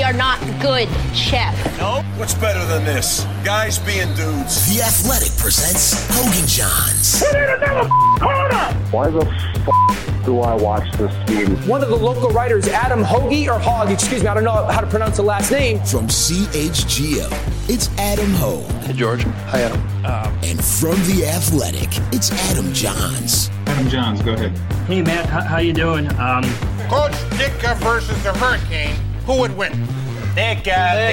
are not good, Chef. No? What's better than this? Guys being dudes. The Athletic presents Hoge and Jahns. We need another corner! Why the do I watch this game? One of the local writers, Adam Hoge, or Hogg, excuse me, I don't know how to pronounce the last name. From CHGO, it's Adam Hoge. Hey, George. Hi, Adam. And from The Athletic, it's Adam Jahns. Adam Jahns, go ahead. Hey, Matt, how you doing? Coach Ditka versus the Hurricane, who would win? Ditka.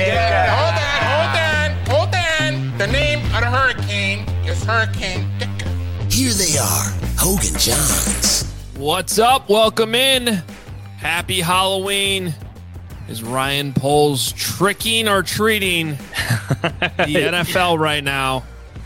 Hold on. The name of the Hurricane is Hurricane Ditka. Here they are, Hoge and Jahns. What's up? Welcome in. Happy Halloween. Is Ryan Poles tricking or treating the NFL right now?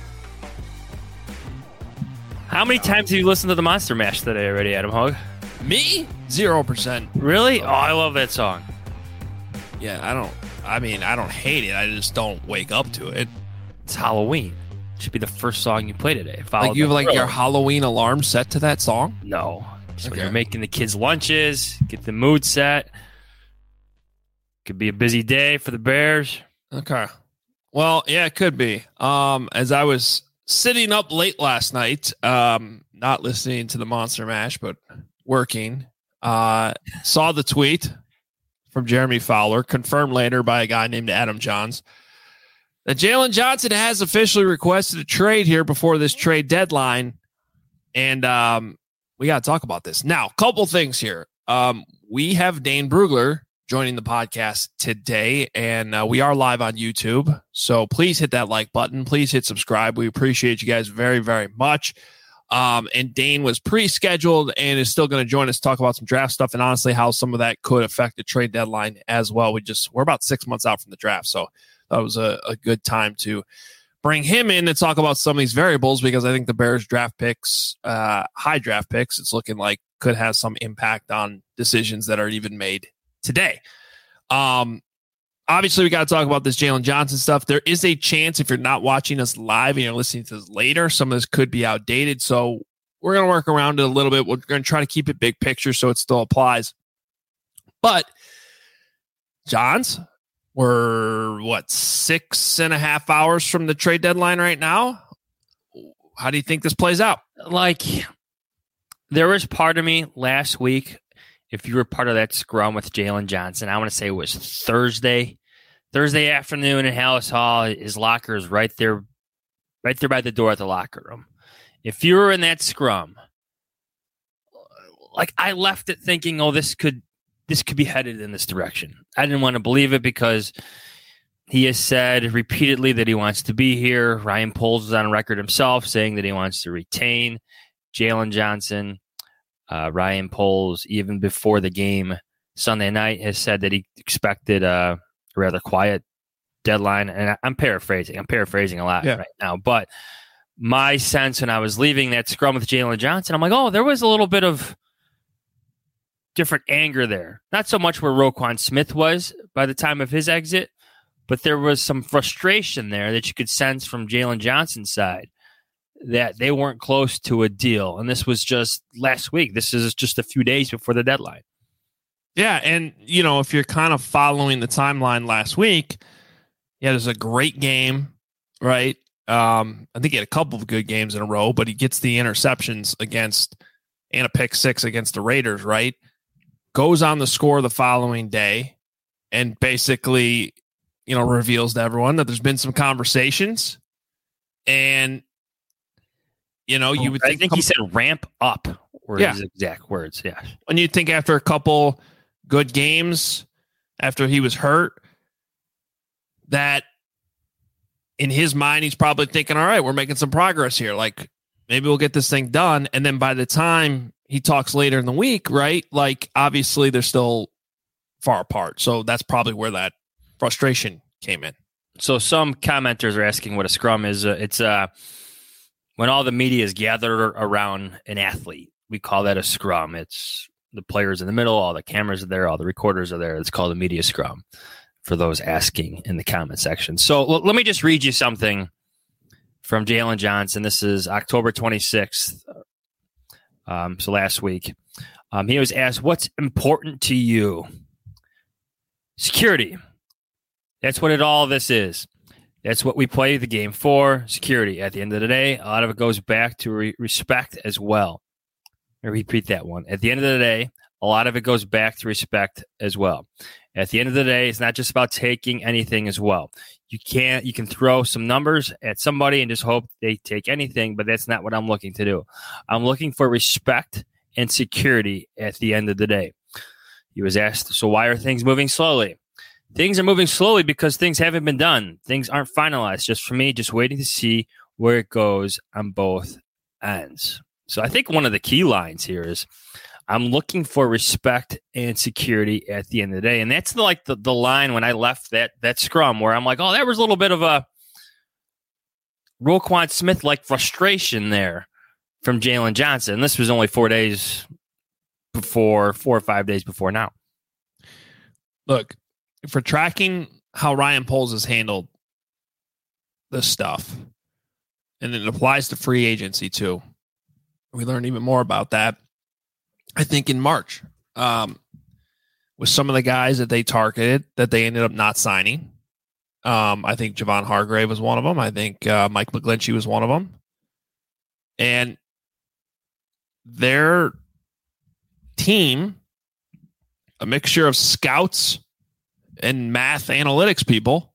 How many times have you listened to the Monster Mash today already, Adam Hoge? Me? 0%. Really? Oh, I love that song. Yeah, I don't hate it. I just don't wake up to it. It's Halloween. It should be the first song you play today. Like you have your Halloween alarm set to that song? No. Just when you're making the kids' lunches, get the mood set. Could be a busy day for the Bears. Okay. Well, yeah, it could be. As I was sitting up late last night, not listening to the Monster Mash, but working, saw the tweet from Jeremy Fowler, confirmed later by a guy named Adam Jahns, that Jaylon Johnson has officially requested a trade here before this trade deadline. And we got to talk about this. Now, a couple things here. We have Dane Brugler joining the podcast today, and we are live on YouTube. So please hit that like button. Please hit subscribe. We appreciate you guys very, very much. And Dane was pre-scheduled and is still going to join us to talk about some draft stuff and honestly how some of that could affect the trade deadline as well. We're about 6 months out from the draft, so that was a good time to bring him in and talk about some of these variables because I think the Bears draft picks, high draft picks, it's looking like could have some impact on decisions that are even made today. Obviously, we got to talk about this Jaylon Johnson stuff. There is a chance if you're not watching us live and you're listening to this later, some of this could be outdated. So we're going to work around it a little bit. We're going to try to keep it big picture so it still applies. But Johns, we're 6.5 hours from the trade deadline right now. How do you think this plays out? Like, there was part of me last week, if you were part of that scrum with Jaylon Johnson, I want to say it was Thursday afternoon in Hallis Hall. His locker is right there by the door at the locker room. If you were in that scrum, like, I left it thinking, oh, this could be headed in this direction. I didn't want to believe it because he has said repeatedly that he wants to be here. Ryan Poles is on record himself saying that he wants to retain Jaylon Johnson. Ryan Poles, even before the game Sunday night, has said that he expected a rather quiet deadline. And I'm paraphrasing a lot right now. But my sense when I was leaving that scrum with Jaylon Johnson, I'm like, oh, there was a little bit of different anger there. Not so much where Roquan Smith was by the time of his exit, but there was some frustration there that you could sense from Jaylon Johnson's side that they weren't close to a deal. And this was just last week. This is just a few days before the deadline. Yeah, and, if you're kind of following the timeline last week, there's a great game, right? I think he had a couple of good games in a row, but he gets the interceptions and a pick six against the Raiders, right? Goes on the score the following day and basically, reveals to everyone that there's been some conversations and, you would think he said ramp up were his exact words. Yeah. And you'd think after a couple good games, after he was hurt, that in his mind, he's probably thinking, all right, we're making some progress here. Like, maybe we'll get this thing done. And then by the time he talks later in the week, right? Like, obviously they're still far apart. So that's probably where that frustration came in. So some commenters are asking what a scrum is. It's when all the media is gathered around an athlete. We call that a scrum. It's the players in the middle, all the cameras are there, all the recorders are there. It's called a media scrum for those asking in the comment section. So let me just read you something from Jaylon Johnson. This is October 26th. So last week, he was asked, what's important to you? Security. That's what all this is. That's what we play the game for, security. At the end of the day, a lot of it goes back to respect as well. I repeat that one. At the end of the day, a lot of it goes back to respect as well. At the end of the day, it's not just about taking anything as well. You can throw some numbers at somebody and just hope they take anything, but that's not what I'm looking to do. I'm looking for respect and security at the end of the day. He was asked, so why are things moving slowly? Things are moving slowly because things haven't been done. Things aren't finalized. Just for me, just waiting to see where it goes on both ends. So I think one of the key lines here is I'm looking for respect and security at the end of the day. And that's the line when I left that scrum where I'm like, oh, there was a little bit of a Roquan Smith-like frustration there from Jalen Johnson. This was only 4 or 5 days before now. Look, for tracking how Ryan Poles has handled this stuff, and it applies to free agency too. We learned even more about that, I think, in March with some of the guys that they targeted that they ended up not signing. I think Javon Hargrave was one of them. I think Mike McGlinchey was one of them. And their team, a mixture of scouts and math analytics people,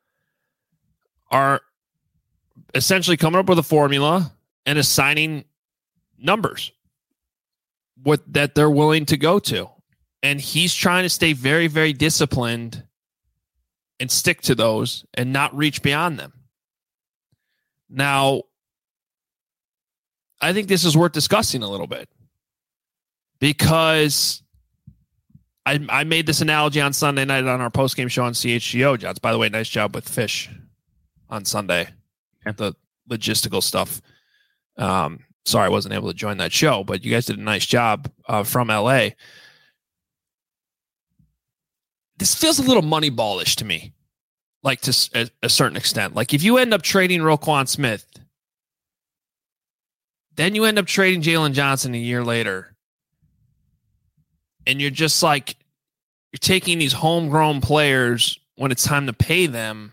are essentially coming up with a formula and assigning numbers that they're willing to go to. And he's trying to stay very, very disciplined and stick to those and not reach beyond them. Now, I think this is worth discussing a little bit because I made this analogy on Sunday night on our postgame show on CHGO, Johns. By the way, nice job with Fish on Sunday. The logistical stuff. Sorry I wasn't able to join that show, but you guys did a nice job from LA. This feels a little Moneyball-ish to me, like to a certain extent. Like if you end up trading Roquan Smith, then you end up trading Jalen Johnson a year later, and you're just like, you're taking these homegrown players when it's time to pay them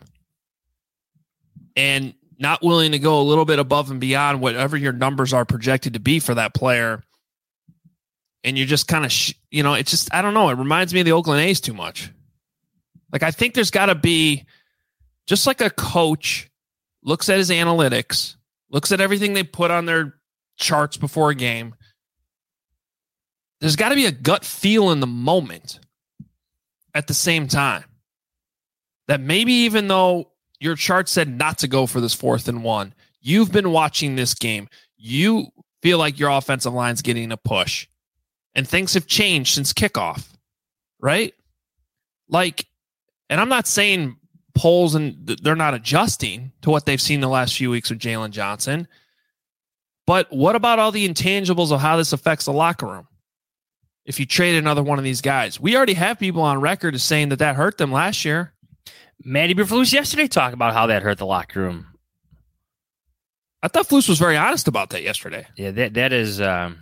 and not willing to go a little bit above and beyond whatever your numbers are projected to be for that player. And you're just kind of, it's just, I don't know. It reminds me of the Oakland A's too much. Like, I think there's got to be, just like a coach looks at his analytics, looks at everything they put on their charts before a game. There's got to be a gut feel in the moment at the same time that maybe even though your chart said not to go for this 4th and 1, you've been watching this game. You feel like your offensive line's getting a push and things have changed since kickoff, right? Like, and I'm not saying Poles and they're not adjusting to what they've seen the last few weeks with Jalen Johnson, but what about all the intangibles of how this affects the locker room? If you trade another one of these guys, we already have people on record as saying that hurt them last year. Manny Berflus yesterday talked about how that hurt the locker room. I thought Flus was very honest about that yesterday. Yeah, that is. If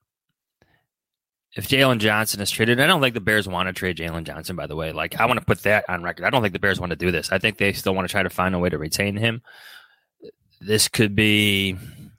Jalen Johnson is traded, I don't think the Bears want to trade Jalen Johnson, by the way. Like, I want to put that on record. I don't think the Bears want to do this. I think they still want to try to find a way to retain him. This could be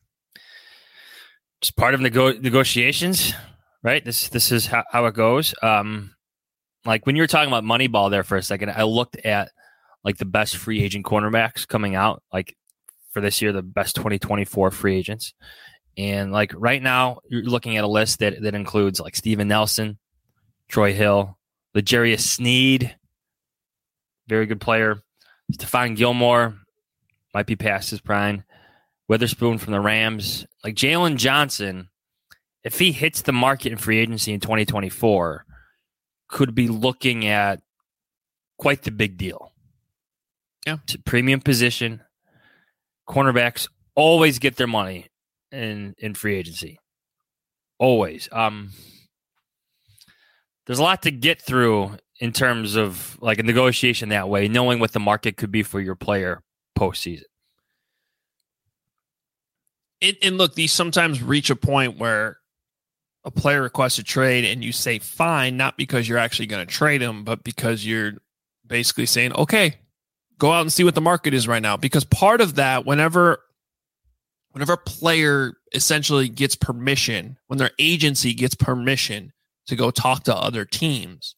just part of negotiations, right? This is how it goes. Like when you were talking about Moneyball there for a second, I looked at like the best free agent cornerbacks coming out, like for this year, the best 2024 free agents. And like right now, you're looking at a list that includes like Steven Nelson, Troy Hill, L'Jarius Sneed, very good player. Stephon Gilmore might be past his prime. Witherspoon from the Rams. Like Jalen Johnson, if he hits the market in free agency in 2024, could be looking at quite the big deal. Yeah. It's a premium position. Cornerbacks always get their money in free agency. Always. There's a lot to get through in terms of like a negotiation that way, knowing what the market could be for your player postseason. And look, these sometimes reach a point where a player requests a trade and you say fine, not because you're actually going to trade him, but because you're basically saying, okay, go out and see what the market is right now. Because part of that, whenever a player essentially gets permission, when their agency gets permission to go talk to other teams,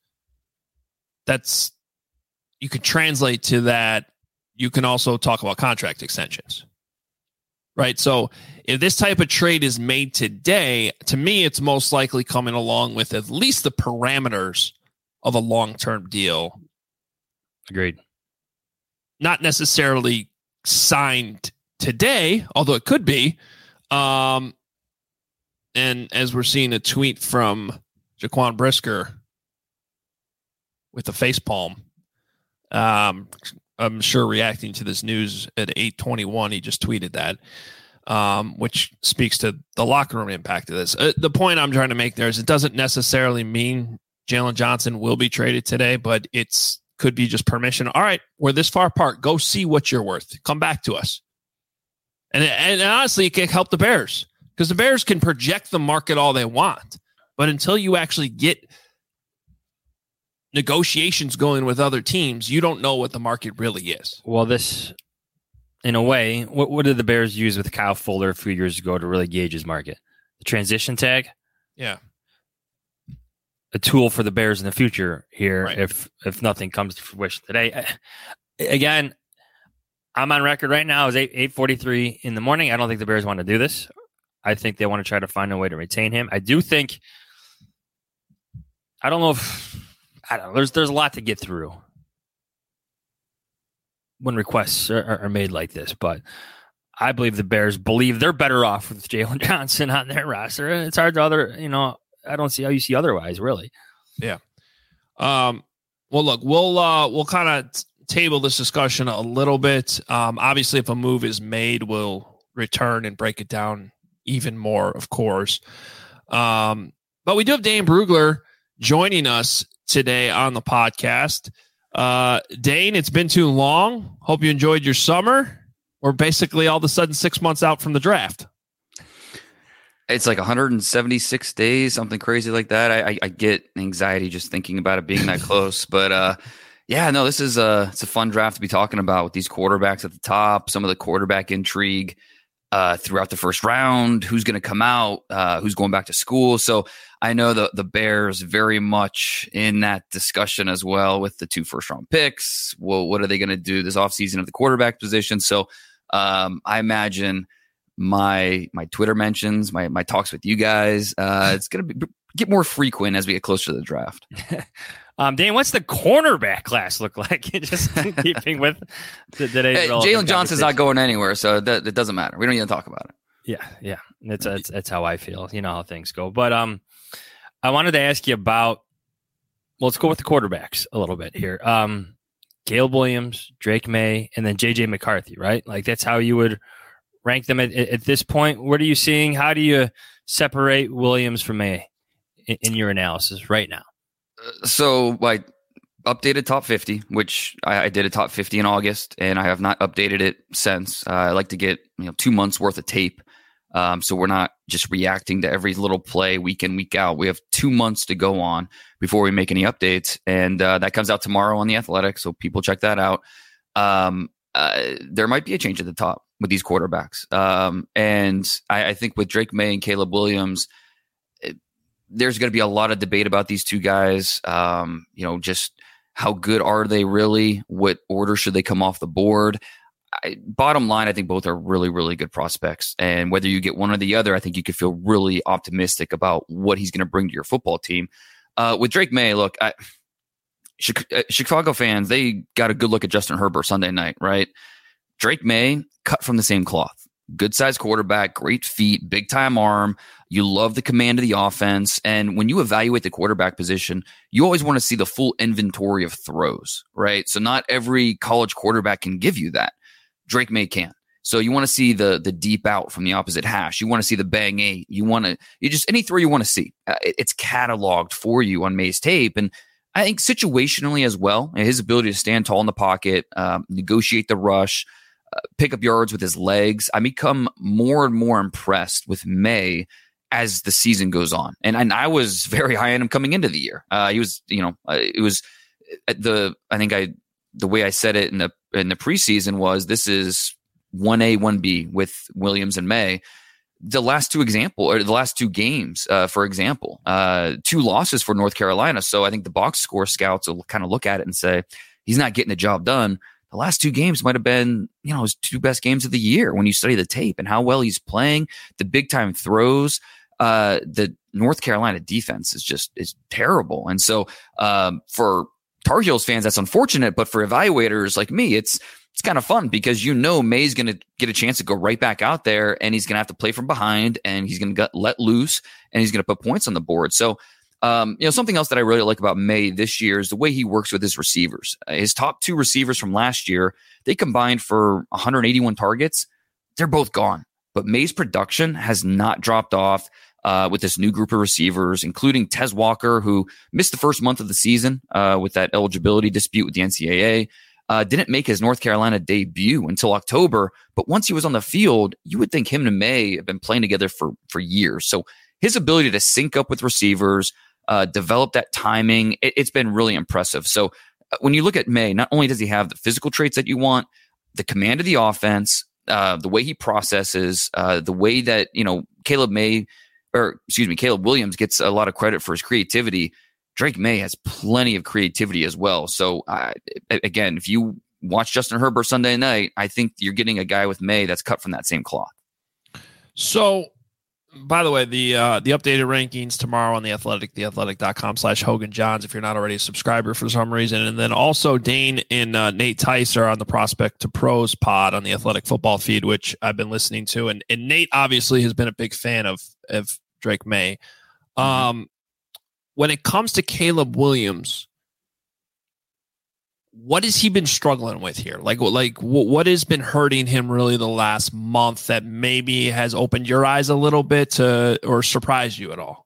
you could translate to that. You can also talk about contract extensions, right? So if this type of trade is made today, to me, it's most likely coming along with at least the parameters of a long-term deal. Agreed. Not necessarily signed today, although it could be. And as we're seeing a tweet from Jaquan Brisker with the facepalm, I'm sure reacting to this news at 8:21, he just tweeted that, which speaks to the locker room impact of this. The point I'm trying to make there is it doesn't necessarily mean Jalen Johnson will be traded today, but could be just permission. All right, we're this far apart. Go see what you're worth. Come back to us. And honestly, it can help the Bears because the Bears can project the market all they want. But until you actually get negotiations going with other teams, you don't know what the market really is. Well, this, in a way, what did the Bears use with Kyle Fuller a few years ago to really gauge his market? The transition tag? Yeah. A tool for the Bears in the future here, right, if nothing comes to fruition today. Again, I'm on record right now. It's 8:43 in the morning. I don't think the Bears want to do this. I think they want to try to find a way to retain him. I don't know. There's a lot to get through when requests are made like this, but I believe the Bears believe they're better off with Jalen Johnson on their roster. It's hard to I don't see how you see otherwise, really. Yeah. Well, look, we'll kind of table this discussion a little bit. Obviously, if a move is made, we'll return and break it down even more, of course. But we do have Dane Brugler joining us today on the podcast. Dane, it's been too long. Hope you enjoyed your summer. We're basically all of a sudden 6 months out from the draft. It's like 176 days, something crazy like that. I get anxiety just thinking about it being that close. But this is it's a fun draft to be talking about with these quarterbacks at the top, some of the quarterback intrigue throughout the first round, who's going to come out, who's going back to school. So I know the Bears very much in that discussion as well with the 2 first-round picks. Well, what are they going to do this offseason at the quarterback position? So I imagine my Twitter mentions, my talks with you guys, it's going to get more frequent as we get closer to the draft. Dan, what's the cornerback class look like? Just keeping with today's Jalen Johnson's not going anywhere, so it doesn't matter. We don't even talk about it. Yeah. That's how I feel. You know how things go. But I wanted to ask you about. Well, let's go with the quarterbacks a little bit here. Caleb Williams, Drake May, and then JJ McCarthy. Right, like that's how you would rank them at this point. What are you seeing? How do you separate Williams from May in your analysis right now? So I updated top 50, which I did a top 50 in August, and I have not updated it since. I like to get 2 months worth of tape, so we're not just reacting to every little play week in, week out. We have 2 months to go on before we make any updates, and that comes out tomorrow on The Athletic, so people check that out. There might be a change at the top with these quarterbacks, and I think with Drake May and Caleb Williams, there's going to be a lot of debate about these two guys. Just how good are they really? What order should they come off the board? Bottom line, I think both are really, really good prospects. And whether you get one or the other, I think you could feel really optimistic about what he's going to bring to your football team. With Drake May, look, Chicago fans, they got a good look at Justin Herbert Sunday night, right? Drake May, cut from the same cloth. Good sized quarterback, great feet, big time arm. You love the command of the offense. And when you evaluate the quarterback position, you always want to see the full inventory of throws, right? So not every college quarterback can give you that. Drake May can. So you want to see the deep out from the opposite hash. You want to see the bang eight. You just any throw you want to see. It's cataloged for you on May's tape. And I think situationally as well, his ability to stand tall in the pocket, negotiate the rush, pick up yards with his legs. I become more and more impressed with May as the season goes on. And I was very high on him coming into the year. He was, it was at I think I the way I said it in the preseason was this is 1A, 1B with Williams and May. The last two games, for example, 2 losses for North Carolina. So I think the box score scouts will kind of look at it and say, he's not getting the job done. The last 2 games might have been, his 2 best games of the year when you study the tape and how well he's playing, the big time throws. The North Carolina defense is terrible. And so, for Tar Heels fans, that's unfortunate, but for evaluators like me, it's kind of fun because May's going to get a chance to go right back out there and he's going to have to play from behind and he's going to let loose and he's going to put points on the board. So, something else that I really like about May this year is the way he works with his receivers. His top 2 receivers from last year, they combined for 181 targets. They're both gone, but May's production has not dropped off. With this new group of receivers, including Tez Walker, who missed the first month of the season with that eligibility dispute with the NCAA. Didn't make his North Carolina debut until October, but once he was on the field, you would think him and May have been playing together for years. So his ability to sync up with receivers, develop that timing, it's been really impressive. So when you look at May, not only does he have the physical traits that you want, the command of the offense, the way he processes, the way that, Caleb Williams gets a lot of credit for his creativity. Drake May has plenty of creativity as well. So again, if you watch Justin Herbert Sunday night, I think you're getting a guy with May that's cut from that same cloth. So, by the way, the updated rankings tomorrow on The Athletic, theathletic.com/Hogan Johns, if you're not already a subscriber for some reason. And then also Dane and Nate Tice are on the Prospect to Pros pod on the Athletic football feed, which I've been listening to. And Nate obviously has been a big fan of Drake May. When it comes to Caleb Williams, what has he been struggling with here? Like what has been hurting him really the last month that maybe has opened your eyes a little bit or surprised you at all?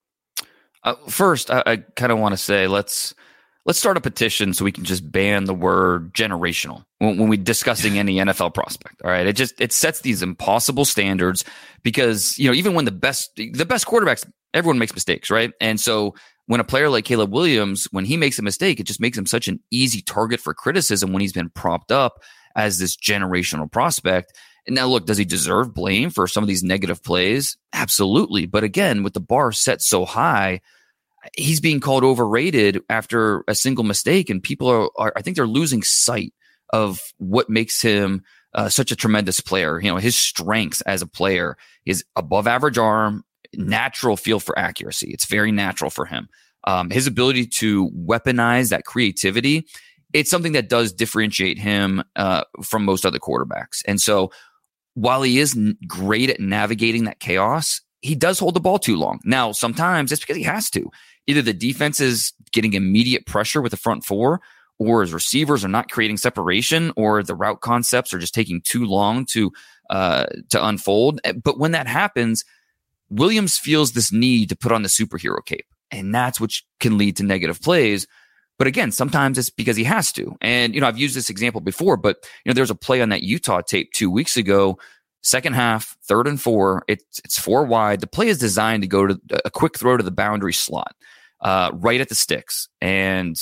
First, I kind of want to say let's start a petition so we can just ban the word generational when we're discussing any NFL prospect. All right, it sets these impossible standards because even when the best quarterbacks, everyone makes mistakes, right? And so when a player like Caleb Williams, when he makes a mistake, it just makes him such an easy target for criticism when he's been propped up as this generational prospect. And now look, does he deserve blame for some of these negative plays? Absolutely. But again, with the bar set so high, he's being called overrated after a single mistake. And people are I think they're losing sight of what makes him such a tremendous player. His strengths as a player is above average arm, natural feel for accuracy. It's very natural for him. His ability to weaponize that creativity, it's something that does differentiate him from most other quarterbacks. And so while he is great at navigating that chaos, he does hold the ball too long. Now, sometimes it's because he has to. Either the defense is getting immediate pressure with the front four, or his receivers are not creating separation, or the route concepts are just taking too long to unfold. But when that happens, Williams feels this need to put on the superhero cape, and that's what can lead to negative plays. But again, sometimes it's because he has to. And, I've used this example before, but, there's a play on that Utah tape 2 weeks ago, second half, 3rd and 4. It's 4 wide. The play is designed to go to a quick throw to the boundary slot, right at the sticks. And,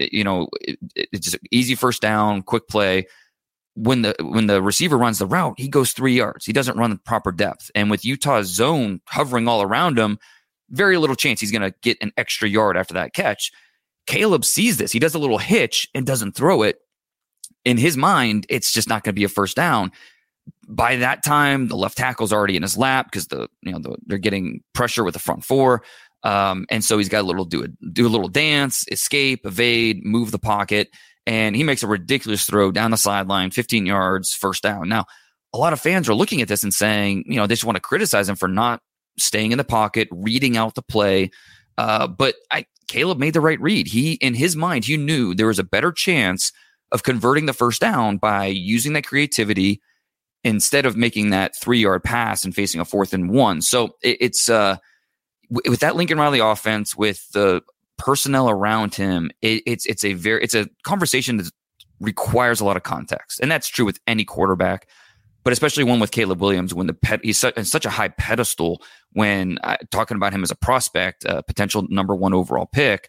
it's just easy first down, quick play. When the receiver runs the route, he goes 3 yards. He doesn't run the proper depth. And with Utah's zone hovering all around him, very little chance he's going to get an extra yard after that catch. Caleb sees this. He does a little hitch and doesn't throw it. In his mind, it's just not going to be a first down. By that time, the left tackle's already in his lap because they're getting pressure with the front four. And so he's got do a little dance, escape, evade, move the pocket. And he makes a ridiculous throw down the sideline, 15 yards, first down. Now, a lot of fans are looking at this and saying, they just want to criticize him for not staying in the pocket, reading out the play. But Caleb made the right read. In his mind, he knew there was a better chance of converting the first down by using that creativity instead of making that 3-yard pass and facing a 4th and 1. So it's with that Lincoln Riley offense, with the personnel around him, it's a conversation that requires a lot of context, and that's true with any quarterback, but especially one with Caleb Williams when he's in such a high pedestal when talking about him as a prospect, potential number 1 overall pick.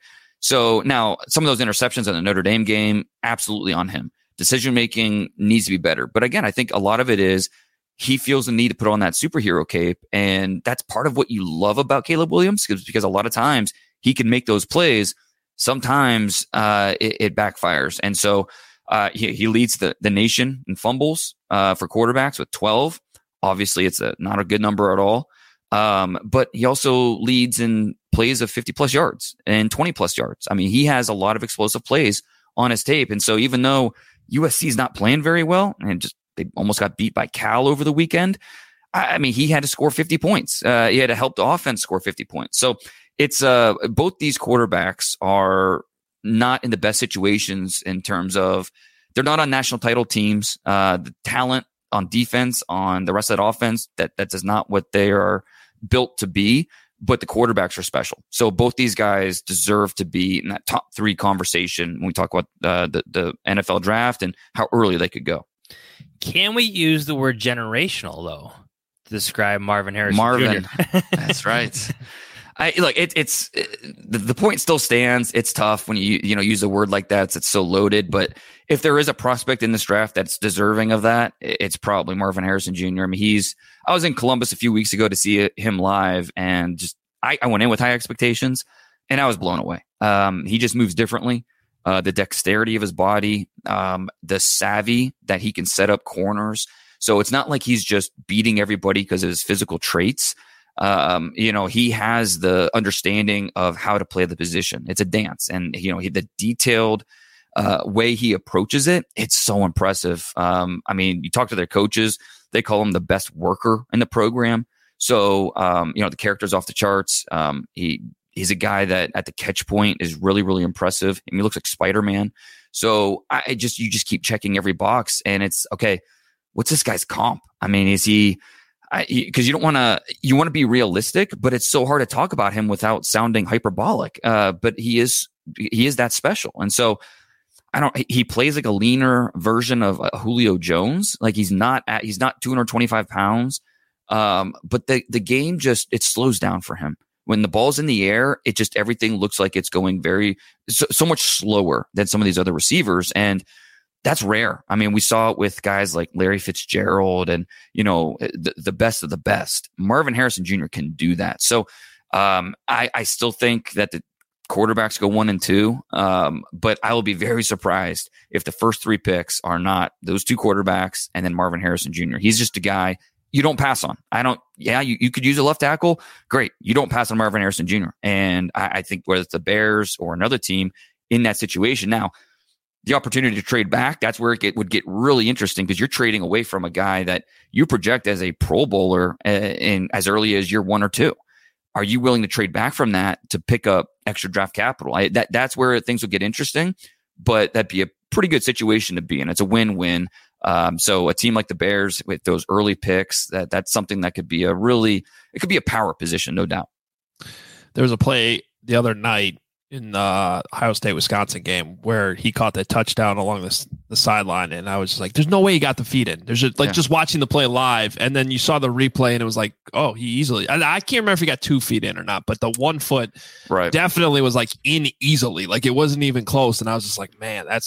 So now some of those interceptions in the Notre Dame game, absolutely on him. Decision-making needs to be better. But again, I think a lot of it is he feels the need to put on that superhero cape. And that's part of what you love about Caleb Williams, because a lot of times he can make those plays. Sometimes it backfires. And so he leads the nation in fumbles for quarterbacks with 12. Obviously, it's not a good number at all. But he also leads in plays of 50-plus yards and 20-plus yards. I mean, he has a lot of explosive plays on his tape. And so even though USC is not playing very well, and they almost got beat by Cal over the weekend, I mean, he had to score 50 points. He had to help the offense score 50 points. So it's both these quarterbacks are not in the best situations in terms of they're not on national title teams. The talent on defense, on the rest of that offense, that is not what they are built to be. But the quarterbacks are special. So both these guys deserve to be in that top 3 conversation when we talk about the NFL draft and how early they could go. Can we use the word generational, though, to describe Marvin Harrison Jr.? That's right. It's the point still stands. It's tough when you use a word like that. It's so loaded. But if there is a prospect in this draft that's deserving of that, it's probably Marvin Harrison Jr. I mean, I was in Columbus a few weeks ago to see him live, and I went in with high expectations, and I was blown away. He just moves differently. The dexterity of his body, the savvy that he can set up corners. So it's not like he's just beating everybody because of his physical traits. He has the understanding of how to play the position. It's a dance, and the detailed way he approaches it, it's so impressive. I mean, you talk to their coaches, they call him the best worker in the program. So, the character's off the charts. He's a guy that at the catch point is really, really impressive. I mean, he looks like Spider-Man. So you just keep checking every box, and it's okay. What's this guy's comp? I mean, is he? Because you want to be realistic, but it's so hard to talk about him without sounding hyperbolic. But he is that special, and so he plays like a leaner version of Julio Jones. Like he's not 225 pounds, but the game it slows down for him. When the ball's in the air, everything looks like it's going so much slower than some of these other receivers, and that's rare. I mean, we saw it with guys like Larry Fitzgerald and, the best of the best. Marvin Harrison Jr. can do that. So I still think that the quarterbacks go 1 and 2, but I will be very surprised if the first 3 picks are not those 2 quarterbacks and then Marvin Harrison Jr. He's just a guy you don't pass on. You could use a left tackle. Great. You don't pass on Marvin Harrison Jr. And I think whether it's the Bears or another team in that situation now, the opportunity to trade back, that's where it would get really interesting because you're trading away from a guy that you project as a Pro Bowler in as early as year 1 or 2. Are you willing to trade back from that to pick up extra draft capital? That's where things will get interesting, but that'd be a pretty good situation to be in. It's a win-win. So a team like the Bears with those early picks, that's something that could be it could be a power position, no doubt. There was a play the other night in the Ohio State-Wisconsin game where he caught that touchdown along the sideline, and I was just like, there's no way he got the feet in. There's just watching the play live, and then you saw the replay, and it was like, oh, he easily – I can't remember if he got 2 feet in or not, but the 1 foot definitely was like in easily. Like it wasn't even close, and I was just like, man, that's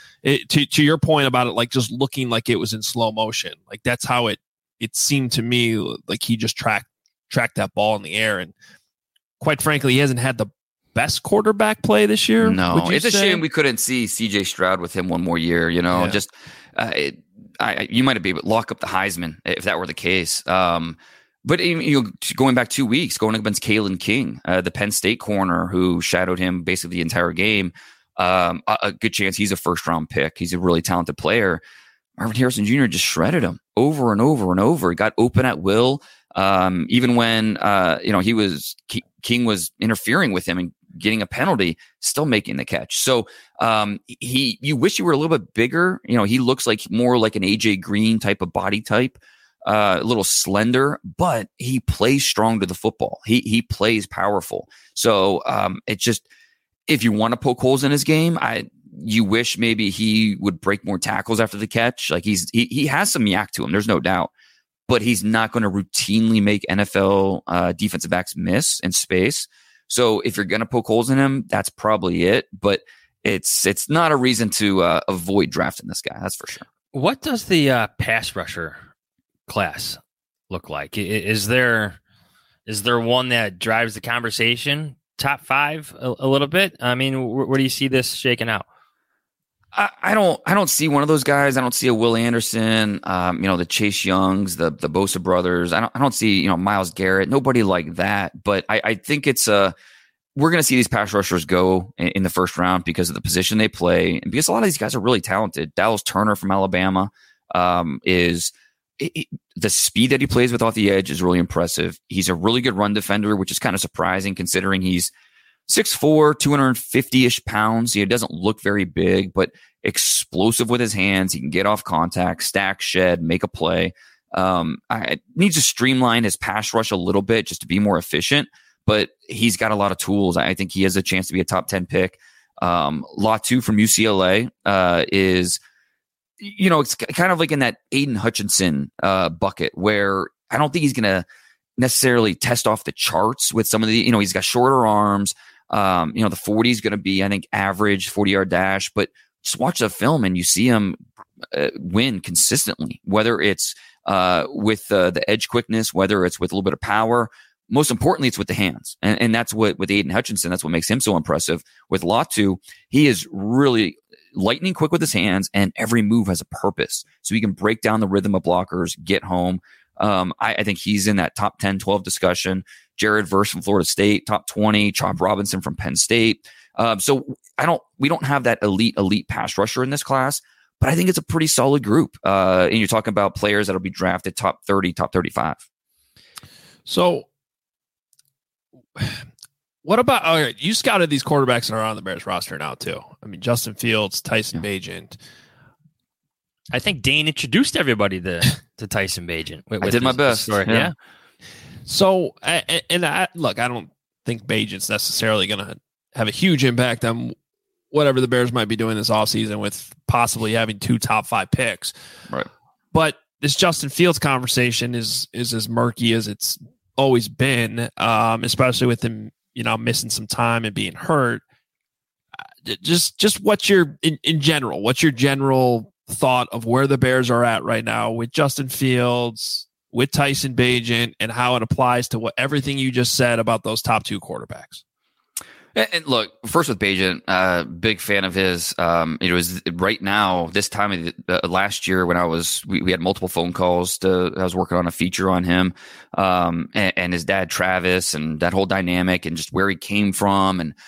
to your point about it, like just looking like it was in slow motion. Like that's how it seemed to me like he just tracked that ball in the air, and quite frankly, he hasn't had the best quarterback play this year. No, it's a shame we couldn't see CJ Stroud with him one more year. You might be able to lock up the Heisman if that were the case. But going back 2 weeks, going against Kalen King, the Penn State corner who shadowed him basically the entire game, a good chance he's a first-round pick. He's a really talented player. Marvin Harrison Jr. just shredded him over and over and over. He got open at will. Even when King was interfering with him and getting a penalty, still making the catch. So you wish he were a little bit bigger. He looks like more like an AJ Green type of body type, a little slender, but he plays strong to the football. He plays powerful. So it's just, if you want to poke holes in his game, you wish maybe he would break more tackles after the catch. Like he has some yak to him. There's no doubt. But he's not going to routinely make NFL defensive backs miss in space. So if you're going to poke holes in him, that's probably it. But it's not a reason to avoid drafting this guy. That's for sure. What does the pass rusher class look like? Is there one that drives the conversation? Top 5 a little bit? I mean, where do you see this shaking out? I don't see one of those guys. I don't see a Will Anderson, the Chase Youngs, the Bosa brothers. I don't see, Myles Garrett, nobody like that. But I think we're going to see these pass rushers go in the first round because of the position they play. And because a lot of these guys are really talented. Dallas Turner from Alabama the speed that he plays with off the edge is really impressive. He's a really good run defender, which is kind of surprising considering he's 6'4", 250-ish pounds. He doesn't look very big, but explosive with his hands. He can get off contact, stack, shed, make a play. I needs to streamline his pass rush a little bit just to be more efficient, but he's got a lot of tools. I think he has a chance to be a top 10 pick. Latu from UCLA is, it's kind of like in that Aiden Hutchinson bucket where I don't think he's going to necessarily test off the charts with some of the, he's got shorter arms. The 40 is going to be, I think, average 40-yard dash, but just watch the film and you see him win consistently, whether it's with the edge quickness, whether it's with a little bit of power. Most importantly, it's with the hands. And that's what, with Aiden Hutchinson, that's what makes him so impressive. With Latu, he is really lightning quick with his hands, and every move has a purpose. So he can break down the rhythm of blockers, get home. I think he's in that top 10, 12 discussion. Jared Verse from Florida State, top 20. Chop Robinson from Penn State. So we don't have that elite pass rusher in this class, but I think it's a pretty solid group. And you're talking about players that'll be drafted top 30, top 35. So what about, you scouted these quarterbacks that are on the Bears roster now too. I mean, Justin Fields, Tyson Bagent. I think Dane introduced everybody to Tyson Bagent. I did my best. Yeah. So, I don't think Bagent's necessarily going to have a huge impact on whatever the Bears might be doing this offseason with possibly having 2 top 5 picks. Right. But this Justin Fields conversation is as murky as it's always been, especially with him, missing some time and being hurt. Just what's your, in general, what's your general thought of where the Bears are at right now with Justin Fields, with Tyson Bagent, and how it applies to everything you just said about those top 2 quarterbacks? And look, first with Bagent, big fan of his. It was right now, this time of last year when we had multiple phone calls I was working on a feature on him, and his dad, Travis, and that whole dynamic and just where he came from. And,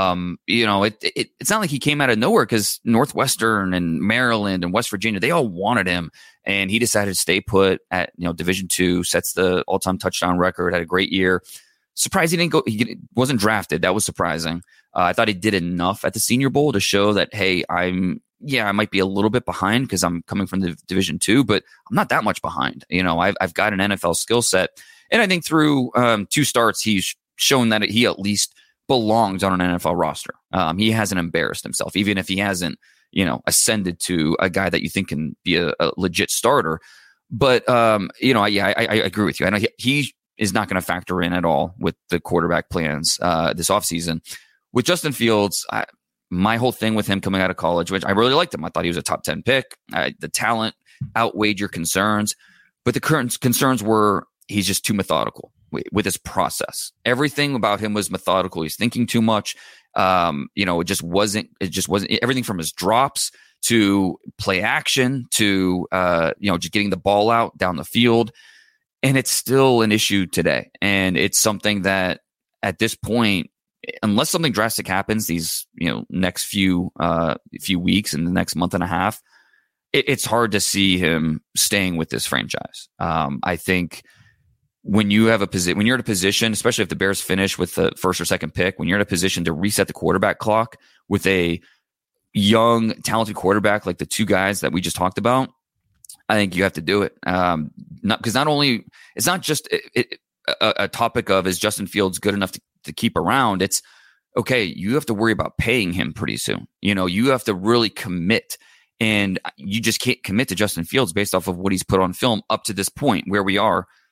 it's not like he came out of nowhere because Northwestern and Maryland and West Virginia, they all wanted him. And he decided to stay put at, Division II, sets the all-time touchdown record, had a great year. Surprised he wasn't drafted. That was surprising. I thought he did enough at the Senior Bowl to show that, hey, I might be a little bit behind because I'm coming from the Division II, but I'm not that much behind. I've got an NFL skill set. And I think through 2 starts, he's shown that he at least belongs on an NFL roster. He hasn't embarrassed himself, even if he hasn't, ascended to a guy that you think can be a legit starter. But, I agree with you. I know he is not going to factor in at all with the quarterback plans this offseason. With Justin Fields, my whole thing with him coming out of college, which I really liked him. I thought he was a top 10 pick. The talent outweighed your concerns. But the current concerns were he's just too methodical with his process. Everything about him was methodical. He's thinking too much. It just wasn't everything from his drops to play action to, just getting the ball out down the field. And it's still an issue today. And it's something that at this point, unless something drastic happens these, next few weeks and the next month and a half, it's hard to see him staying with this franchise. I think when you're in a position, especially if the Bears finish with the first or second pick, when you're in a position to reset the quarterback clock with a young, talented quarterback like the 2 guys that we just talked about, I think you have to do it. Because not only it's not just a topic of is Justin Fields good enough to keep around. It's okay. You have to worry about paying him pretty soon. You have to really commit, and you just can't commit to Justin Fields based off of what he's put on film up to this point where we are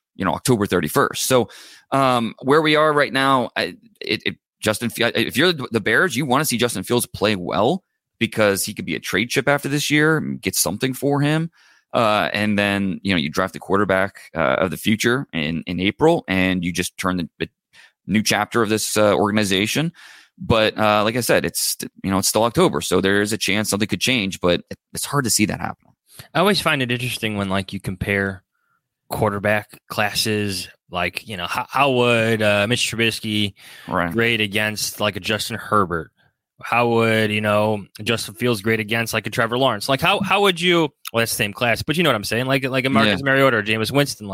October 31st. So where we are right now, Justin, if you're the Bears, you want to see Justin Fields play well because he could be a trade chip after this year, get something for him. And then, you draft the quarterback of the future in April, and you just turn the new chapter of this organization. But like I said, it's still October, so there is a chance something could change, but it's hard to see that happen. I always find it interesting when you compare quarterback classes. How would Mitch Trubisky grade against a Justin Herbert? How would Justin Fields grade against a Trevor Lawrence? How would you? Well, that's the same class, but you know what I'm saying. Like a Marcus Mariota or Jameis Winston.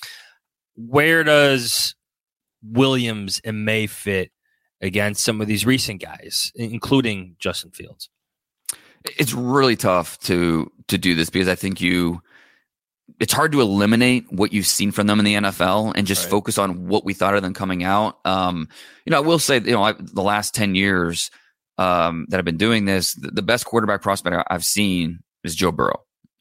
Where does Williams and May fit against some of these recent guys, including Justin Fields? It's really tough to do this because I think it's hard to eliminate what you've seen from them in the NFL and just focus on what we thought of them coming out. I will say, the last 10 years that I've been doing this, the best quarterback prospect I've seen is Joe Burrow.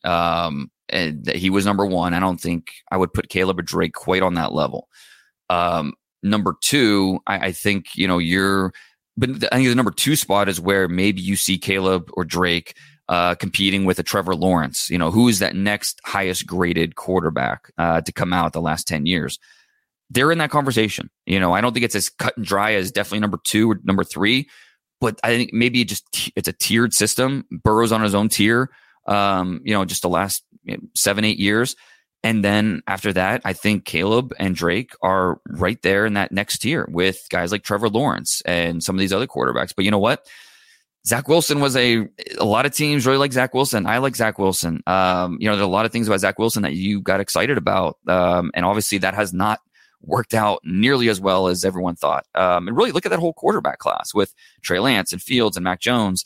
And he was number one. I don't think I would put Caleb or Drake quite on that level. Number two, I think, but I think the number two spot is where maybe you see Caleb or Drake competing with a Trevor Lawrence. Who is that next highest graded quarterback to come out the last 10 years? They're in that conversation. I don't think it's as cut and dry as definitely number two or number three, but I think maybe it's a tiered system. Burrow's on his own tier, just the last 7-8 years. And then after that, I think Caleb and Drake are right there in that next tier with guys like Trevor Lawrence and some of these other quarterbacks. But you know what? Zach Wilson was a lot of teams really like Zach Wilson. I like Zach Wilson. There's a lot of things about Zach Wilson that you got excited about. And obviously that has not worked out nearly as well as everyone thought. And really look at that whole quarterback class with Trey Lance and Fields and Mac Jones.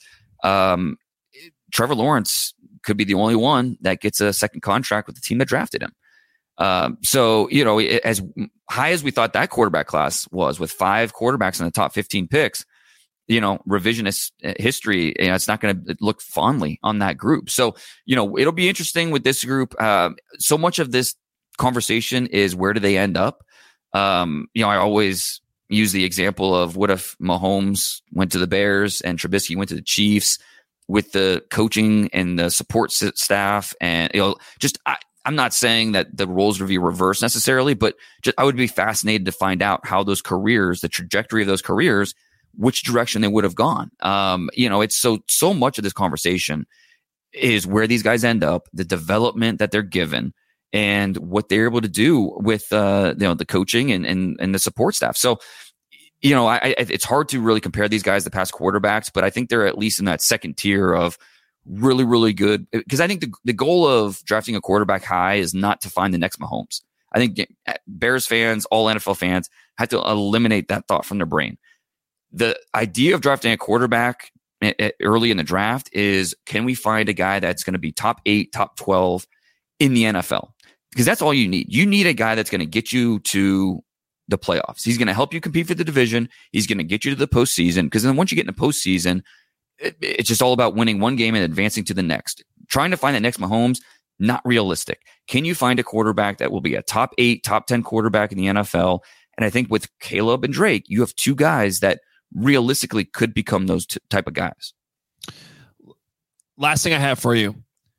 Trevor Lawrence could be the only one that gets a second contract with the team that drafted him. So, as high as we thought that quarterback class was, with 5 quarterbacks in the top 15 picks, revisionist history, it's not going to look fondly on that group. So, it'll be interesting with this group. So much of this conversation is where do they end up? I always use the example of what if Mahomes went to the Bears and Trubisky went to the Chiefs, with the coaching and the support staff. And, I'm not saying that the roles would be reversed necessarily, but I would be fascinated to find out how those careers, the trajectory of those careers, which direction they would have gone. It's so much of this conversation is where these guys end up, the development that they're given, and what they're able to do with, the coaching and the support staff. So, it's hard to really compare these guys to past quarterbacks, but I think they're at least in that second tier of really, really good. Because I think the goal of drafting a quarterback high is not to find the next Mahomes. I think Bears fans, all NFL fans, have to eliminate that thought from their brain. The idea of drafting a quarterback early in the draft is, can we find a guy that's going to be top 8, top 12 in the NFL? Because that's all you need. You need a guy that's going to get you to the playoffs. He's going to help you compete for the division. He's going to get you to the postseason, because then once you get in the postseason, it's just all about winning one game and advancing to the next. Trying to find that next Mahomes, not realistic. Can you find a quarterback that will be a top 8, top 10 quarterback in the NFL? And I think with Caleb and Drake, you have 2 guys that realistically could become those type of guys. Last thing I have for you.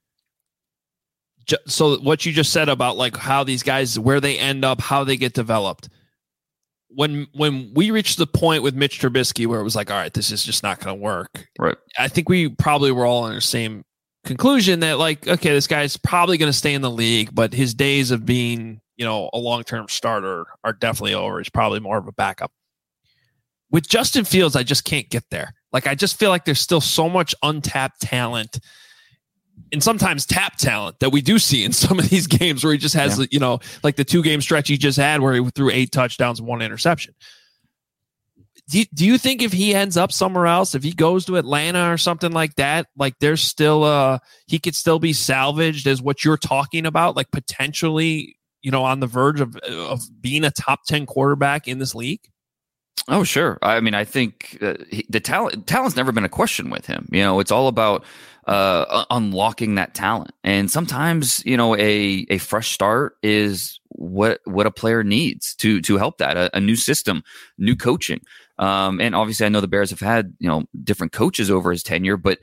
So what you just said about how these guys, where they end up, how they get developed. When we reached the point with Mitch Trubisky where it was all right, this is just not going to work. Right. I think we probably were all on the same conclusion that okay, this guy's probably going to stay in the league, but his days of being, a long-term starter are definitely over. He's probably more of a backup. With Justin Fields, I just can't get there. I just feel like there's still so much untapped talent, and sometimes tap talent, that we do see in some of these games where he just has, the 2-game stretch he just had where he threw 8 touchdowns and 1 interception. Do you think if he ends up somewhere else, if he goes to Atlanta or something like that, there's still he could still be salvaged as what you're talking about, potentially, on the verge of being a top 10 quarterback in this league? Oh, sure. I mean, I think the talent's never been a question with him. You know, it's all about unlocking that talent. And sometimes, you know, a fresh start is what a player needs to help that. A new system, new coaching. And obviously, I know the Bears have had, you know, different coaches over his tenure, but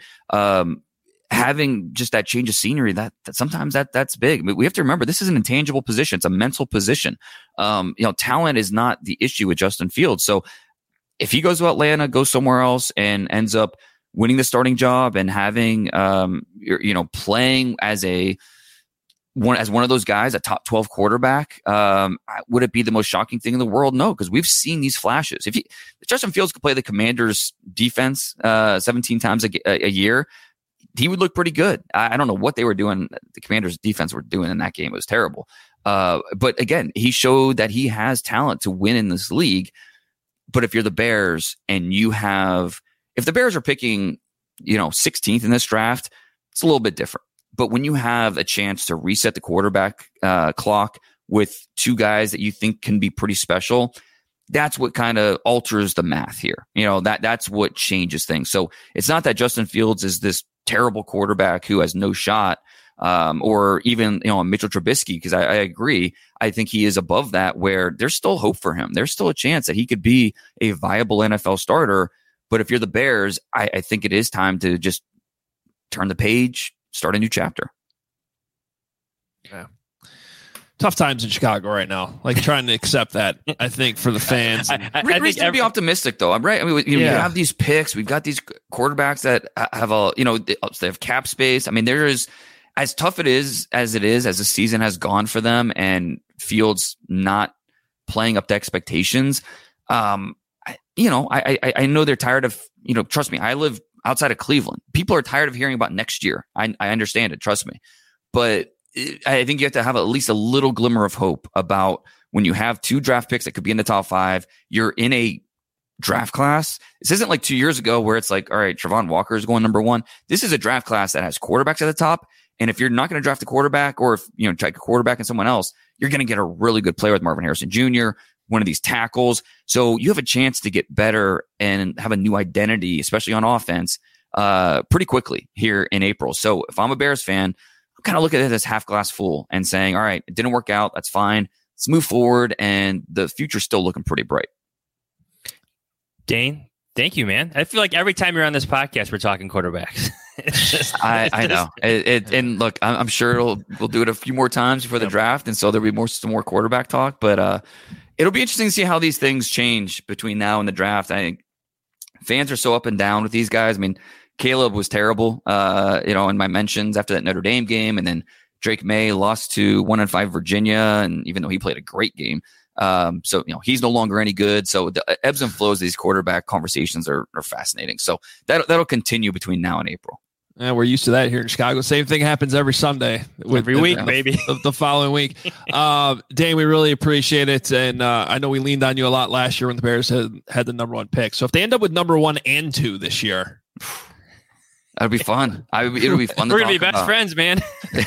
having just that change of scenery, that sometimes that's big. I mean, we have to remember this is an intangible position. It's a mental position. You know, talent is not the issue with Justin Fields. So if he goes to Atlanta, goes somewhere else, and ends up winning the starting job and having, you know, playing as one of those guys, a top 12 quarterback, would it be the most shocking thing in the world? No, because we've seen these flashes. If Justin Fields could play the Commanders defense 17 times a year, he would look pretty good. I don't know what they were doing. The Commanders defense were doing in that game. It was terrible. But again, he showed that he has talent to win in this league. But if you're the Bears and if the Bears are picking, you know, 16th in this draft, it's a little bit different. But when you have a chance to reset the quarterback clock with two guys that you think can be pretty special, that's what kind of alters the math here. You know, that's what changes things. So it's not that Justin Fields is this terrible quarterback who has no shot, or even, you know, Mitchell Trubisky, because I agree. I think he is above that, where there's still hope for him. There's still a chance that he could be a viable NFL starter. But if you're the Bears, I think it is time to just turn the page, start a new chapter. Yeah. Tough times in Chicago right now. Like trying to accept that, I think, for the fans. I think to be optimistic, though. I'm right. I mean, we have these picks. We've got these quarterbacks that have they have cap space. I mean, there is, as tough as the season has gone for them, and Fields not playing up to expectations. I know they're tired of, you know, trust me, I live outside of Cleveland. People are tired of hearing about next year. I understand it. Trust me. But I think you have to have at least a little glimmer of hope about when you have two draft picks that could be in the top 5, you're in a draft class. This isn't like 2 years ago where it's like, all right, Travon Walker is going number 1. This is a draft class that has quarterbacks at the top. And if you're not going to draft a quarterback, or if, you know, take a quarterback and someone else, you're going to get a really good player with Marvin Harrison Jr., one of these tackles. So you have a chance to get better and have a new identity, especially on offense, pretty quickly here in April. So if I'm a Bears fan, I'm kind of looking at it as half glass full and saying, all right, it didn't work out. That's fine. Let's move forward. And the future's still looking pretty bright. Dane, thank you, man. I feel like every time you're on this podcast, we're talking quarterbacks. I know. And look, I'm sure we'll do it a few more times before the draft. And so there'll be some more quarterback talk, but it'll be interesting to see how these things change between now and the draft. I think fans are so up and down with these guys. I mean, Caleb was terrible, in my mentions after that Notre Dame game. And then Drake May lost to 1-5 Virginia. And even though he played a great game, he's no longer any good. So the ebbs and flows of these quarterback conversations are fascinating. So that'll continue between now and April. Yeah, we're used to that here in Chicago. Same thing happens every Sunday. Every week, maybe. The following week. Dane, we really appreciate it. And I know we leaned on you a lot last year when the Bears had the number 1 pick. So if they end up with number 1 and 2 this year, that'll be fun. It'll be fun. We're going to be best friends, man.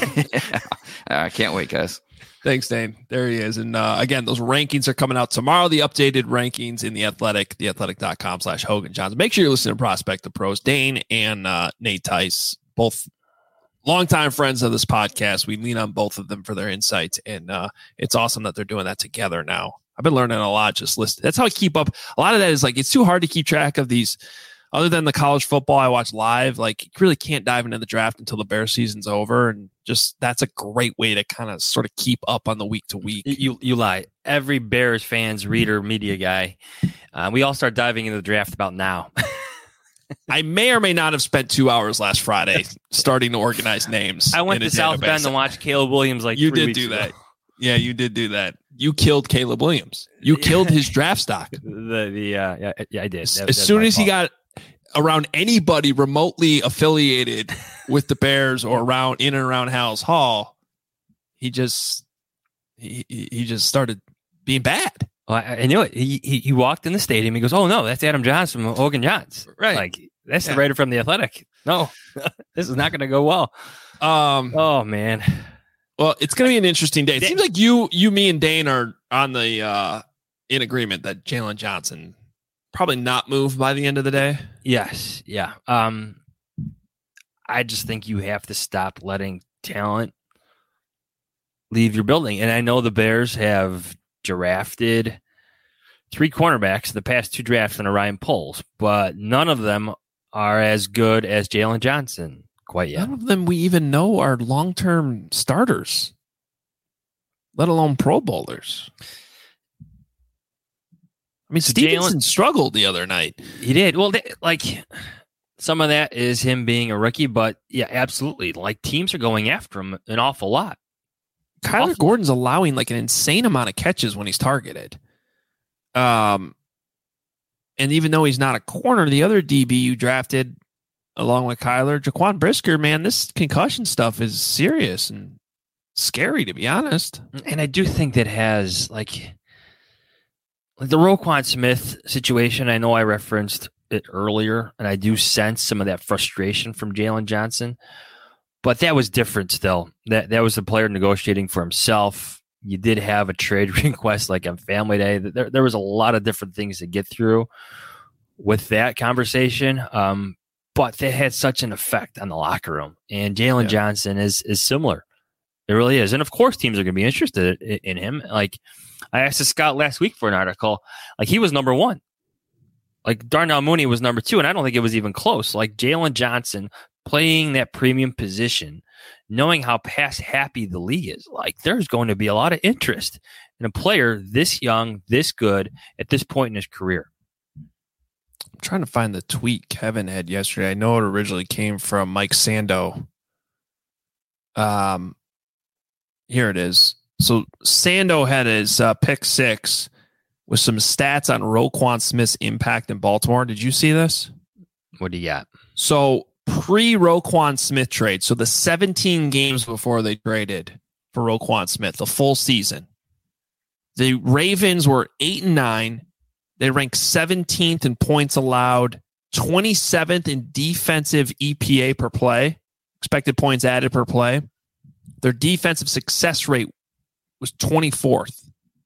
I can't wait, guys. Thanks, Dane. There he is. And again, those rankings are coming out tomorrow. The updated rankings in The Athletic, theathletic.com/Hogan Johnson. Make sure you're listening to Prospect the Pros. Dane and Nate Tice, both longtime friends of this podcast. We lean on both of them for their insights. And it's awesome that they're doing that together now. I've been learning a lot just listening. That's how I keep up. A lot of that is like, it's too hard to keep track of these. Other than the college football I watch live, like you really can't dive into the draft until the Bears season's over. And just that's a great way to kind of sort of keep up on the week to week. You lie. Every Bears fans, reader, media guy, we all start diving into the draft about now. I may or may not have spent 2 hours last Friday starting to organize names. I went to South Bend to watch Caleb Williams you did do that. Yeah, you did do that. You killed Caleb Williams. You killed his draft stock. Yeah, I did. As soon as he got around anybody remotely affiliated with the Bears or in and around Halas Hall, he just started being bad. Well, I knew it. He walked in the stadium. He goes, "Oh no, that's Adam Johnson from Hogan Johns." Right, like that's the writer from The Athletic. No, this is not going to go well. Oh man. Well, it's going to be an interesting day. It seems like you, me, and Dane are on the in agreement that Jalen Johnson probably not move by the end of the day. Yes. Yeah. I just think you have to stop letting talent leave your building. And I know the Bears have drafted 3 cornerbacks in the past 2 drafts under Ryan Poles, but none of them are as good as Jalen Johnson quite yet. None of them we even know are long-term starters, let alone Pro Bowlers. I mean, Stevenson struggled the other night. He did. Well, some of that is him being a rookie, but yeah, absolutely. Like, teams are going after him an awful lot. Kyler Gordon's allowing like an insane amount of catches when he's targeted. And even though he's not a corner, the other DB you drafted along with Kyler, Jaquan Brisker, man, this concussion stuff is serious and scary, to be honest. And I do think that has like the Roquan Smith situation. I know I referenced it earlier, and I do sense some of that frustration from Jalen Johnson, but that was different still. That was the player negotiating for himself. You did have a trade request like on Family Day. There was a lot of different things to get through with that conversation, but they had such an effect on the locker room. And Jalen Johnson is similar. It really is. And of course, teams are going to be interested in him. Like, I asked Scott last week for an article. Like, he was number 1. Like, Darnell Mooney was number 2, and I don't think it was even close. Like, Jalen Johnson playing that premium position, knowing how pass happy the league is, like, there's going to be a lot of interest in a player this young, this good at this point in his career. I'm trying to find the tweet Kevin had yesterday. I know it originally came from Mike Sando. Here it is. So Sando had his pick 6 with some stats on Roquan Smith's impact in Baltimore. Did you see this? What do you got? So pre-Roquan Smith trade, so the 17 games before they traded for Roquan Smith, the full season, the Ravens were 8-9. They ranked 17th in points allowed, 27th in defensive EPA per play, expected points added per play. Their defensive success rate was 24th.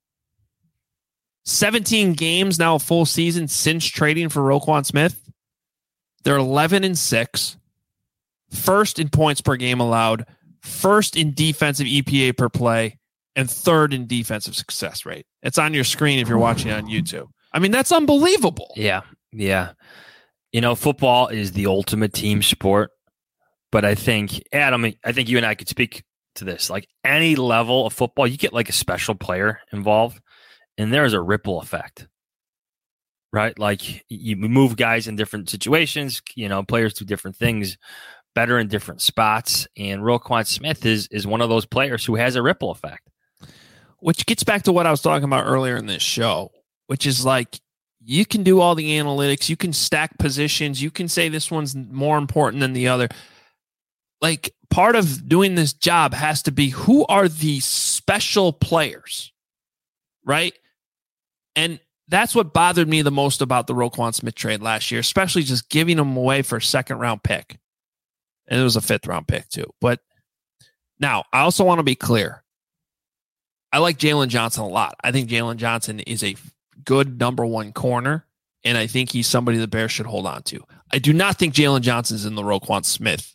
17 games now, a full season since trading for Roquan Smith. They're 11-6, first in points per game allowed, first in defensive EPA per play, and third in defensive success rate. It's on your screen if you're watching on YouTube. I mean, that's unbelievable. Yeah. You know, football is the ultimate team sport, but I think, Adam, you and I could speak to this. Like, any level of football, you get like a special player involved, and there's a ripple effect, right? Like, you move guys in different situations, you know, players do different things better in different spots, and Roquan Smith is one of those players who has a ripple effect. Which gets back to what I was talking about earlier in this show, which is like, you can do all the analytics, you can stack positions, you can say this one's more important than the other. Like, part of doing this job has to be, who are the special players, right? And that's what bothered me the most about the Roquan Smith trade last year, especially just giving him away for a 2nd-round pick. And it was a 5th-round pick too. But now, I also want to be clear. I like Jalen Johnson a lot. I think Jalen Johnson is a good number 1 corner, and I think he's somebody the Bears should hold on to. I do not think Jalen Johnson's in the Roquan Smith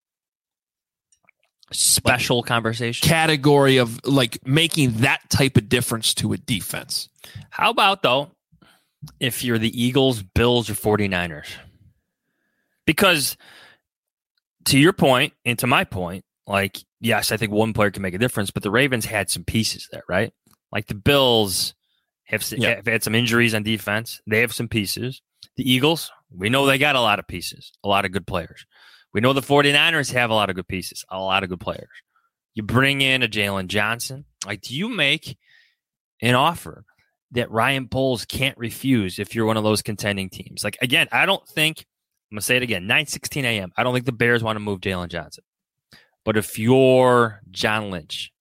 special conversation category of like making that type of difference to a defense. How about, though, if you're the Eagles, Bills, or 49ers? Because to your point and to my point, like, yes, I think one player can make a difference, but the Ravens had some pieces there, right? Like, the Bills have had some injuries on defense. They have some pieces. The Eagles, we know they got a lot of pieces, a lot of good players. We know the 49ers have a lot of good pieces, a lot of good players. You bring in a Jalen Johnson. Like, do you make an offer that Ryan Poles can't refuse if you're one of those contending teams? Like, again, I don't think, I'm going to say it again, 9:16 a.m., I don't think the Bears want to move Jalen Johnson. But if you're John Lynch,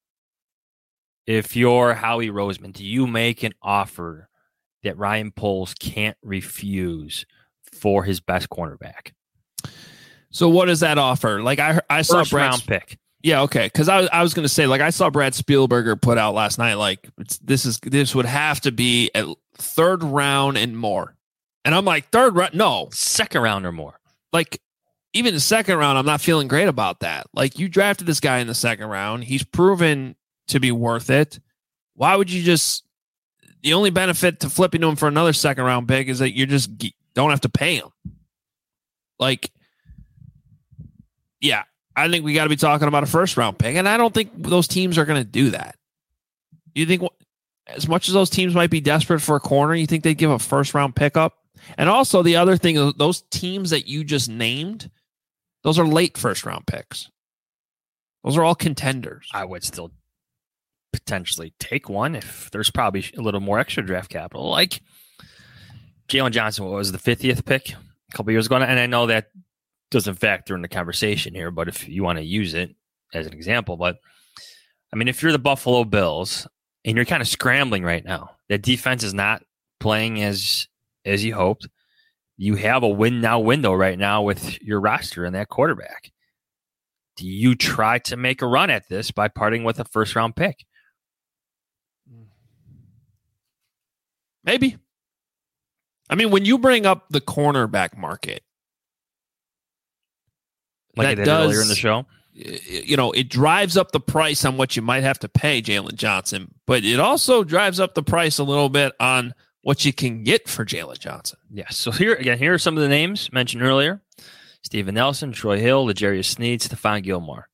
if you're Howie Roseman, do you make an offer that Ryan Poles can't refuse for his best cornerback? So what does that offer? Like, I saw first round pick. Yeah, okay. Because I was going to say, like, I saw Brad Spielberger put out last night, like, this would have to be at third round and more. And I'm like, third round? No. Second round or more. Like, even the second round, I'm not feeling great about that. Like, you drafted this guy in the second round. He's proven to be worth it. Why would you the only benefit to flipping to him for another second round pick is that you just don't have to pay him. Like, yeah. I think we got to be talking about a first round pick, and I don't think those teams are going to do that. You think, as much as those teams might be desperate for a corner, you think they'd give a first round pickup? And also, the other thing, those teams that you just named, those are late first round picks. Those are all contenders. I would still potentially take one if there's probably a little more extra draft capital. Like Jalen Johnson, what was the 50th pick a couple years ago? And I know that doesn't factor in the conversation here, but if you want to use it as an example, but I mean, if you're the Buffalo Bills and you're kind of scrambling right now, that defense is not playing as you hoped. You have a win now window right now with your roster and that quarterback. Do you try to make a run at this by parting with a first round pick? Maybe. I mean, when you bring up the cornerback market, like I did earlier in the show, you know, it drives up the price on what you might have to pay Jalen Johnson, but it also drives up the price a little bit on what you can get for Jalen Johnson. Yes. So here are some of the names mentioned earlier: Steven Nelson, Troy Hill, L'Jarius Sneed, Stephon Gilmore.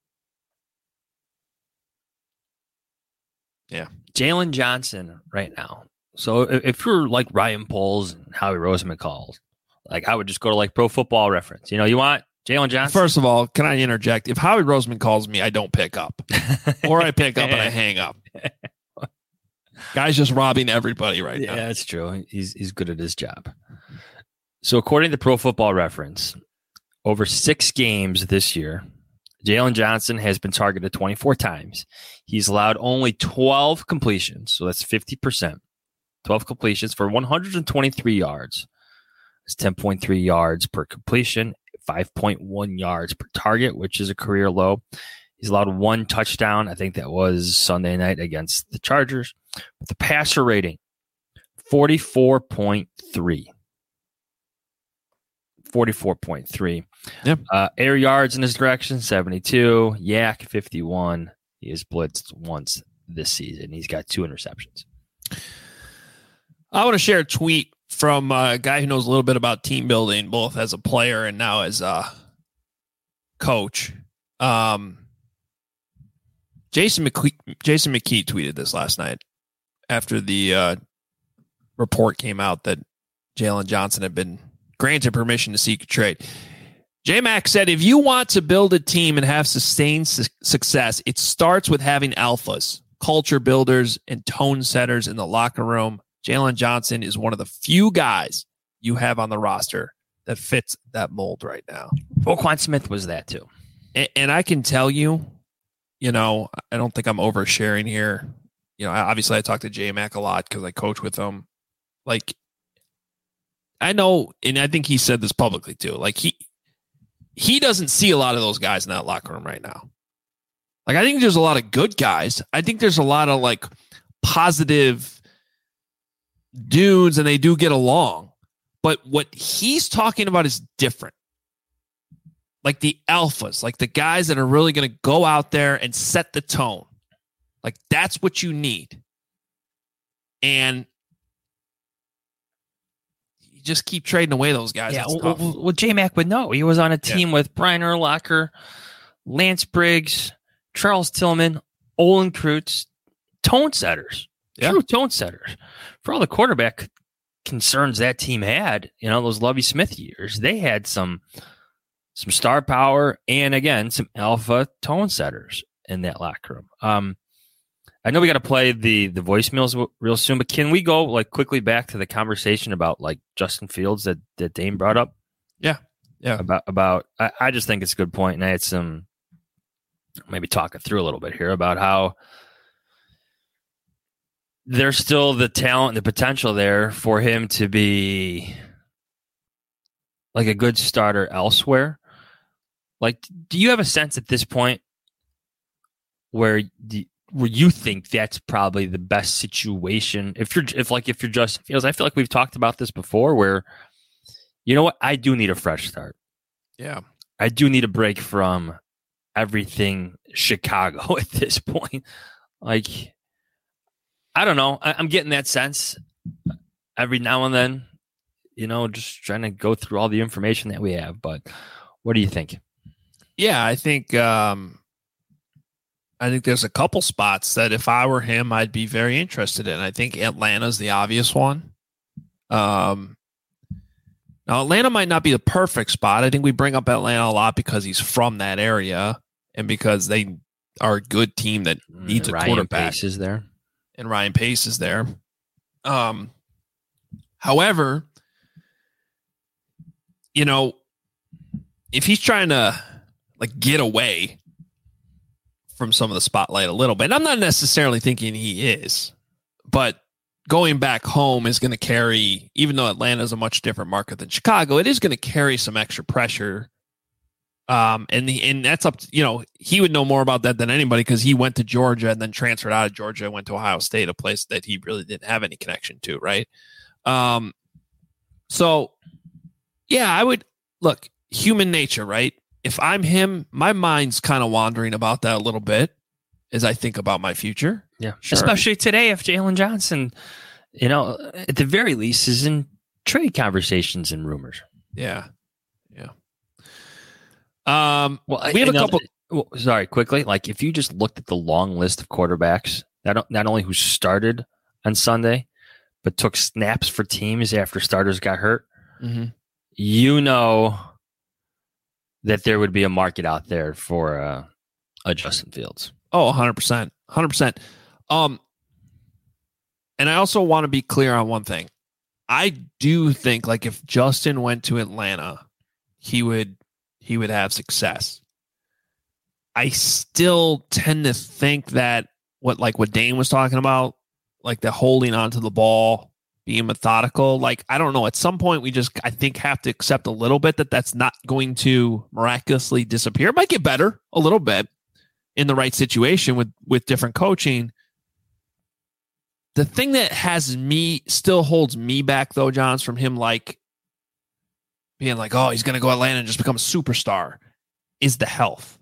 Yeah. Jalen Johnson right now. So if you're like Ryan Poles and Howie Roseman calls, like I would just go to like Pro Football Reference. You know, you want Jalen Johnson? First of all, can I interject? If Howie Roseman calls me, I don't pick up. Or I pick up and I hang up. Guy's just robbing everybody right now. Yeah, that's true. He's good at his job. So according to Pro Football Reference, over 6 games this year, Jalen Johnson has been targeted 24 times. He's allowed only 12 completions, so that's 50%. 12 completions for 123 yards. It's 10.3 yards per completion, 5.1 yards per target, which is a career low. He's allowed 1 touchdown. I think that was Sunday night against the Chargers. But the passer rating, 44.3. 44.3. Yep. Air yards in his direction, 72. Yak, 51. He has blitzed once this season. He's got 2 interceptions. I want to share a tweet from a guy who knows a little bit about team building, both as a player and now as a coach. Jason McKee tweeted this last night after the report came out that Jalen Johnson had been granted permission to seek a trade. J-Mac said, if you want to build a team and have sustained success, it starts with having alphas, culture builders, and tone setters in the locker room. Jalen Johnson is one of the few guys you have on the roster that fits that mold right now. Roquan Smith was that too. And I can tell you, you know, I don't think I'm oversharing here. You know, obviously I talk to J-Mac a lot because I coach with him. Like, I know, and I think he said this publicly too. Like, he doesn't see a lot of those guys in that locker room right now. Like, I think there's a lot of good guys. I think there's a lot of like positive dudes and they do get along. But what he's talking about is different. Like the alphas, like the guys that are really going to go out there and set the tone. Like that's what you need. And you just keep trading away those guys. Yeah, well, J-Mac would know. He was on a team with Brian Urlacher, Lance Briggs, Charles Tillman, Olin Kreutz, tone setters. Yeah. True tone setters. For all the quarterback concerns that team had, you know, those Lovie Smith years, they had some star power and, again, some alpha tone setters in that locker room. I know we got to play the voicemails real soon, but can we go like quickly back to the conversation about like Justin Fields that Dane brought up? Yeah. About I just think it's a good point, and I had some maybe talking through a little bit here about how there's still the talent, the potential there for him to be like a good starter elsewhere. Like, do you have a sense at this point where you think that's probably the best situation. If you're Justin Fields, I feel like we've talked about this before where, you know what? I do need a fresh start. Yeah. I do need a break from everything Chicago at this point. Like, I don't know. I'm getting that sense every now and then, just trying to go through all the information that we have. But what do you think? Yeah, I think there's a couple spots that if I were him, I'd be very interested in. I think Atlanta's the obvious one. Now, Atlanta might not be the perfect spot. I think we bring up Atlanta a lot because he's from that area and because they are a good team that needs a quarterback. Pace is there. And Ryan Pace is there. However, if he's trying to get away from some of the spotlight a little bit, I'm not necessarily thinking he is, but going back home is going to carry, even though Atlanta is a much different market than Chicago, it is going to carry some extra pressure. And that's up to, he would know more about that than anybody because he went to Georgia and then transferred out of Georgia and went to Ohio State, a place that he really didn't have any connection to. Right. So yeah, I would look, human nature, right? If I'm him, my mind's kind of wandering about that a little bit as I think about my future. Yeah. Sure. Especially today, if Jalen Johnson, at the very least is in trade conversations and rumors. Yeah. Yeah. We have a couple. Sorry, quickly. Like if you just looked at the long list of quarterbacks, not only who started on Sunday, but took snaps for teams after starters got hurt, that there would be a market out there for a Justin Fields. Oh, 100%. 100%. And I also want to be clear on one thing. I do think if Justin went to Atlanta, he would have success. I still tend to think that what Dane was talking about, the holding onto the ball, being methodical, I don't know. At some point, we just, I think, have to accept a little bit that that's not going to miraculously disappear. It might get better a little bit in the right situation with different coaching. The thing that still holds me back, though, Johns, from him being oh, he's going to go Atlanta and just become a superstar, is the health.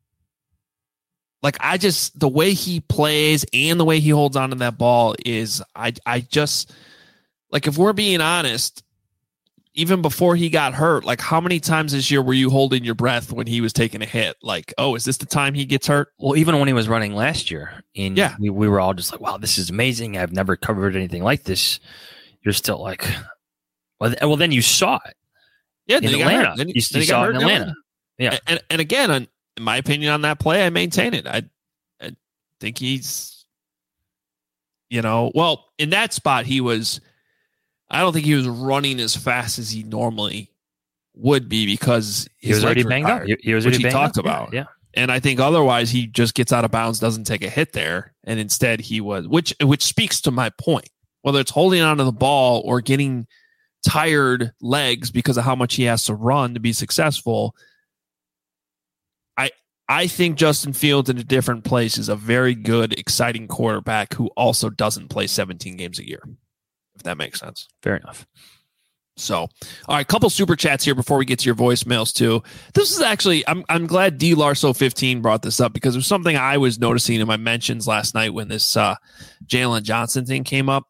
The way he plays and the way he holds on to that ball is, I just, if we're being honest, even before he got hurt, how many times this year were you holding your breath when he was taking a hit? Oh, is this the time he gets hurt? Well, even when he was running last year, we were all just wow, this is amazing. I've never covered anything like this. You're still well, then you saw it. Yeah, in Atlanta. You saw it in Atlanta. Yeah. And again, in my opinion on that play, I maintain it. I think he's, in that spot, I don't think he was running as fast as he normally would be because he was already banged up. He was already talked about. Yeah. And I think otherwise he just gets out of bounds, doesn't take a hit there. And instead he was, which speaks to my point, whether it's holding onto the ball or getting tired legs because of how much he has to run to be successful. I think Justin Fields in a different place is a very good, exciting quarterback who also doesn't play 17 games a year, if that makes sense. Fair enough. So, all right, couple super chats here before we get to your voicemails too. This is actually, I'm glad D Larso 15 brought this up because it was something I was noticing in my mentions last night when this Jalen Johnson thing came up.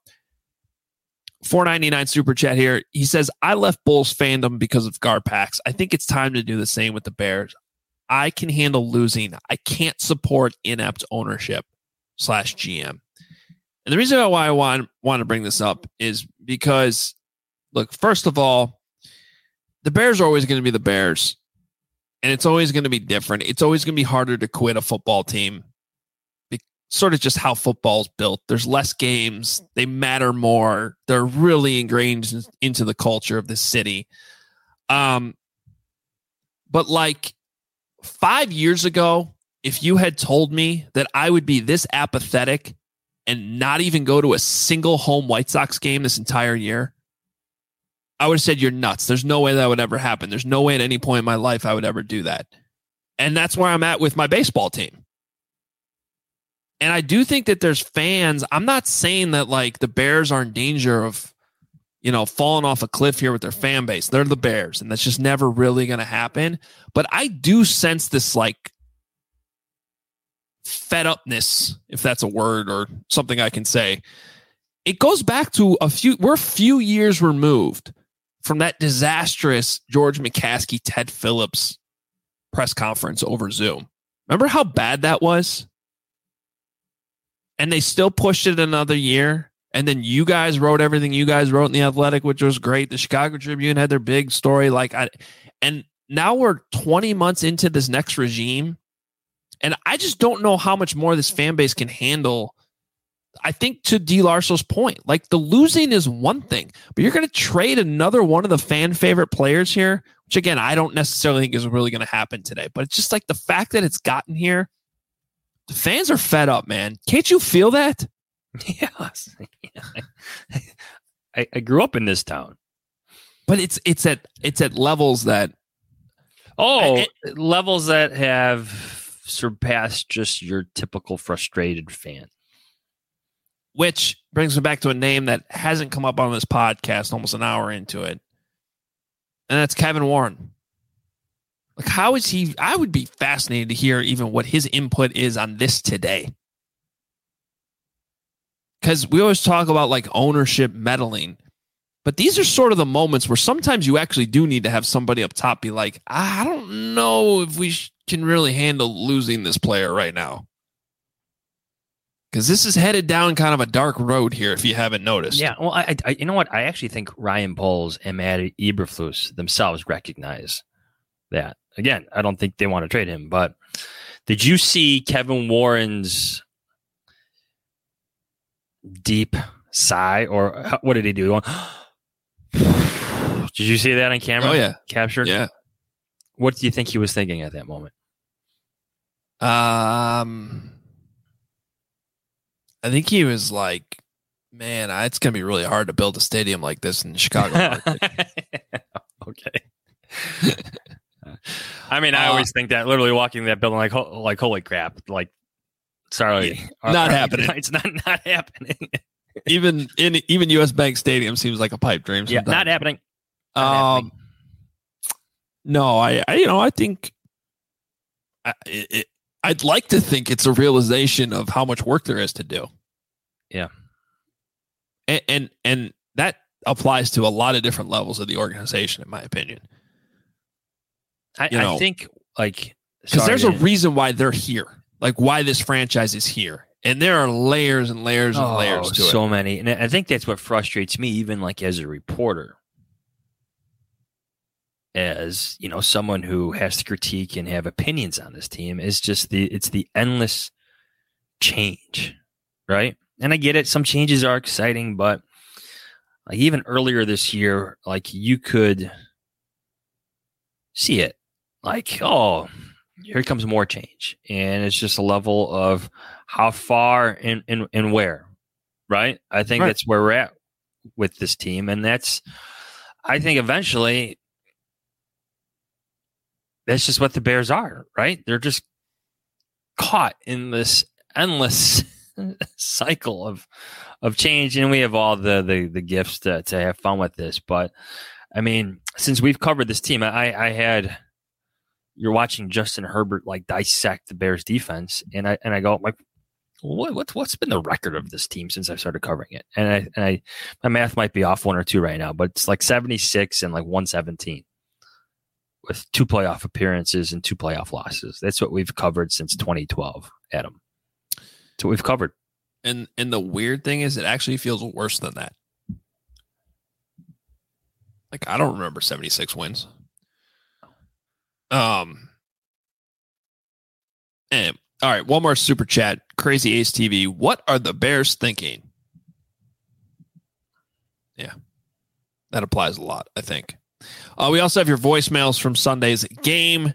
499 super chat here. He says, I left Bulls fandom because of Garpax. I think it's time to do the same with the Bears. I can handle losing. I can't support inept ownership /GM. And the reason why I want to bring this up is because, look, first of all, the Bears are always going to be the Bears, and it's always going to be different. It's always going to be harder to quit a football team. Sort of just how football's built. There's less games. They matter more. They're really ingrained into the culture of the city. But 5 years ago, if you had told me that I would be this apathetic and not even go to a single home White Sox game this entire year, I would have said you're nuts. There's no way that would ever happen. There's no way at any point in my life I would ever do that. And that's where I'm at with my baseball team. And I do think that there's fans. I'm not saying that like the Bears are in danger of, falling off a cliff here with their fan base. They're the Bears, and that's just never really going to happen. But I do sense this like fed upness, if that's a word or something I can say. It goes back to we're a few years removed from that disastrous George McCaskey, Ted Phillips press conference over Zoom. Remember how bad that was? And they still pushed it another year. And then you guys wrote everything you guys wrote in The Athletic, which was great. The Chicago Tribune had their big story. And now we're 20 months into this next regime. And I just don't know how much more this fan base can handle. I think to D. Larso's point, like the losing is one thing, but you're going to trade another one of the fan favorite players here, which again, I don't necessarily think is really going to happen today, but it's just like the fact that it's gotten here. The fans are fed up, man. Can't you feel that? Yes. I grew up in this town, but it's at levels that levels that have surpassed just your typical frustrated fan. Which brings me back to a name that hasn't come up on this podcast almost an hour into it, and that's Kevin Warren. Like, how is he? I would be fascinated to hear even what his input is on this today. Because we always talk about like ownership meddling, but these are sort of the moments where sometimes you actually do need to have somebody up top be like, I don't know if we can really handle losing this player right now. Because this is headed down kind of a dark road here, if you haven't noticed. Yeah, well, I you know what? I actually think Ryan Poles and Matt Eberflus themselves recognize that. Again, I don't think they want to trade him, but did you see Kevin Warren's deep sigh, or what did he do? Did you see that on camera? Oh, yeah. Captured? Yeah. What do you think he was thinking at that moment? I think he was like, man, it's going to be really hard to build a stadium like this in the Chicago market. Okay. I mean, I always think that literally walking that building, like holy crap, like, sorry, not happening. It's not happening. even US Bank Stadium seems like a pipe dream. Yeah, not happening. No, I think I'd like to think it's a realization of how much work there is to do. Yeah. And that applies to a lot of different levels of the organization, in my opinion. I think, like, because there's a reason why they're here, like why this franchise is here. And there are layers and layers and layers to it. So many. And I think that's what frustrates me, even like as a reporter, as, someone who has to critique and have opinions on this team, is just it's the endless change, right? And I get it. Some changes are exciting, but like even earlier this year, like you could see it like, oh, here comes more change. And it's just a level of how far and where, right? I think that's where we're at with this team. And I think eventually that's just what the Bears are, right? They're just caught in this endless cycle of change. And we have all the gifts to have fun with this. But I mean, since we've covered this team, you're watching Justin Herbert like dissect the Bears defense, and I go like, what's been the record of this team since I started covering it? And my math might be off 1 or 2 right now, but it's like 76 and like 117 with 2 playoff appearances and 2 playoff losses. That's what we've covered since 2012, Adam. That's what we've covered. And the weird thing is, it actually feels worse than that. Like, I don't remember 76 wins. And all right, one more super chat. Crazy Ace TV. What are the Bears thinking? Yeah, that applies a lot, I think. We also have your voicemails from Sunday's game.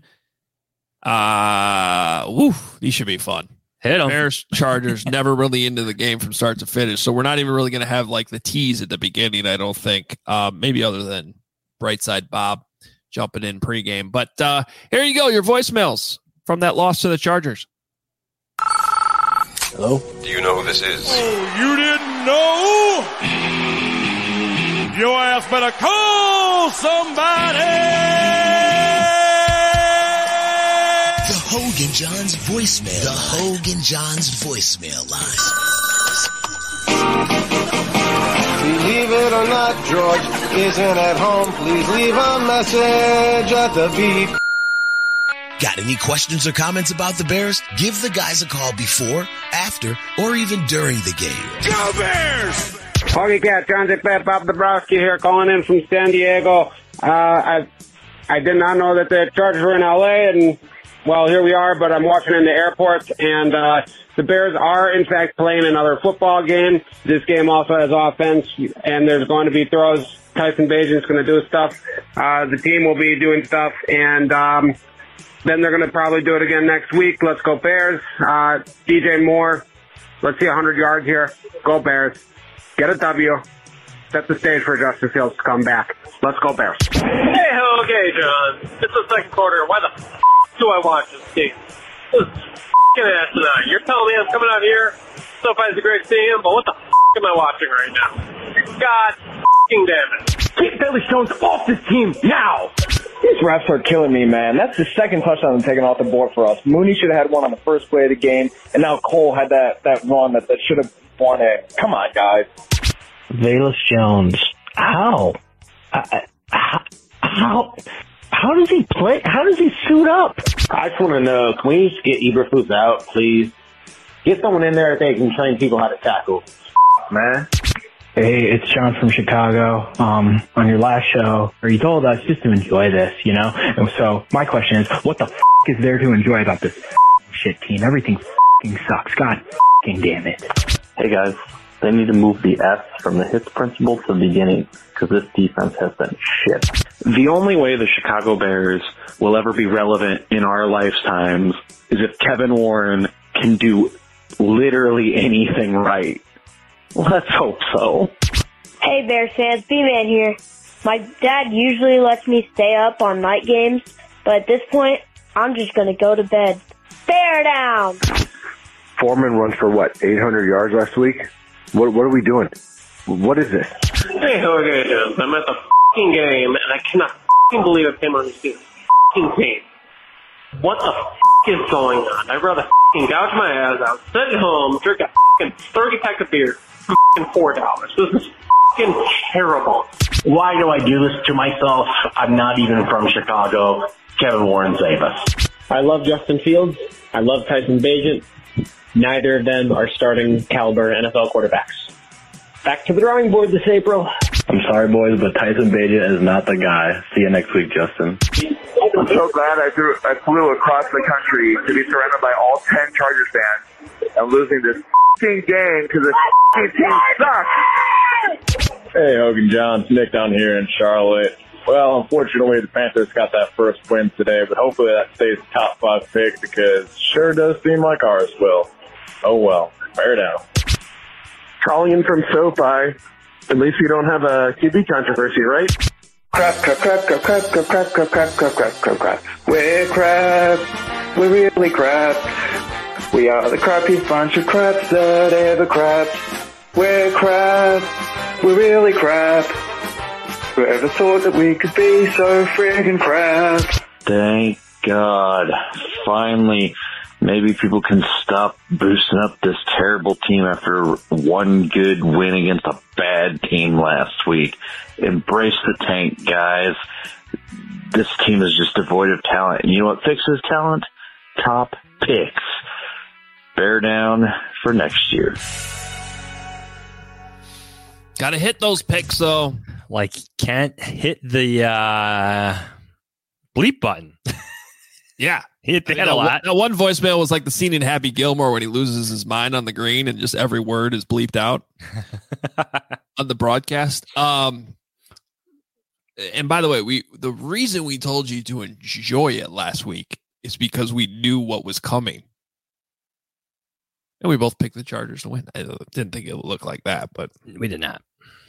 These should be fun. Hit 'em. Bears Chargers never really into the game from start to finish, so we're not even really going to have like the tease at the beginning, I don't think. Maybe other than Brightside Bob jumping in pregame. But here you go, your voicemails from that loss to the Chargers. Hello? Do you know who this is? Oh, you didn't know? Your ass better call somebody! The Hogan Johns voicemail. The Hogan Johns voicemail line. Believe it or not, George isn't at home. Please leave a message at the beep. Got any questions or comments about the Bears? Give the guys a call before, after, or even during the game. Go Bears! Hoggy Cat, Transit Pet, Bob Dabrowski here, calling in from San Diego. I did not know that the Chargers were in LA, and well, here we are, but I'm watching in the airport, and the Bears are, in fact, playing another football game. This game also has offense, and there's going to be throws. Tyson Bagent's going to do stuff. The team will be doing stuff, and then they're going to probably do it again next week. Let's go Bears. DJ Moore, let's see 100 yards here. Go Bears. Get a W. Set the stage for Justin Fields to come back. Let's go Bears. Hey, okay, John. It's the second quarter. Why the do I watch this game? This is f***ing asinine. You're telling me I'm coming out here, SoFi's a great stadium, but what the am I watching right now? God f***ing damn it. Get Bailey Jones off this team now! These refs are killing me, man. That's the second touchdown taken off the board for us. Mooney should have had one on the first play of the game, and now Cole had that run that should have won it. Come on, guys. Velus Jones. How? How does he play? How does he suit up? I just want to know, can we just get Eberflus out, please? Get someone in there that can train people how to tackle. Man. Hey, it's John from Chicago. On your last show, or you told us just to enjoy this, you know? And so my question is, what the is there to enjoy about this shit team? Everything sucks. God damn it. Hey guys, they need to move the S from the hits principle to the beginning, because this defense has been shit. The only way the Chicago Bears will ever be relevant in our lifetimes is if Kevin Warren can do literally anything right. Let's hope so. Hey Bears fans, B-Man here. My dad usually lets me stay up on night games, but at this point, I'm just gonna go to bed. Bear down! Foreman runs for what, 800 yards last week? What are we doing? What is this? Hey, okay, John. I'm at the f***ing game, and I cannot f***ing believe I came on to see this f***ing team. What the f*** is going on? I'd rather f***ing gouge my ass out, sit at home, drink a f***ing 30-pack of beer for f***ing $4. This is f***ing terrible. Why do I do this to myself? I'm not even from Chicago. Kevin Warren, save us. I love Justin Fields. I love Tyson Bagent. Neither of them are starting caliber NFL quarterbacks. Back to the drawing board this April. I'm sorry, boys, but Tyson Bagent is not the guy. See you next week, Justin. I'm so glad I flew across the country to be surrounded by all 10 Chargers fans and losing this f***ing game because the f***ing team sucks. Hey, Hogan Johns, Nick down here in Charlotte. Well, unfortunately, the Panthers got that first win today, but hopefully that stays a top 5 pick because it sure does seem like ours will. Oh, well. Bear down. Calling in from SoFi. At least we don't have a QB controversy, right? Crap. We're crap. We're really crap. We are the crappiest bunch of craps that ever crapped. We're crap. We're really crap. Whoever thought that we could be so friggin' crap? Thank God. Finally, maybe people can stop boosting up this terrible team after one good win against a bad team last week. Embrace the tank, guys. This team is just devoid of talent. And you know what fixes talent? Top picks. Bear down for next year. Got to hit those picks, though. Like, can't hit the bleep button. Yeah. He hit that a lot. That one voicemail was like the scene in Happy Gilmore when he loses his mind on the green and just every word is bleeped out on the broadcast. And by the way, the reason we told you to enjoy it last week is because we knew what was coming. And we both picked the Chargers to win. I didn't think it would look like that, but we did not.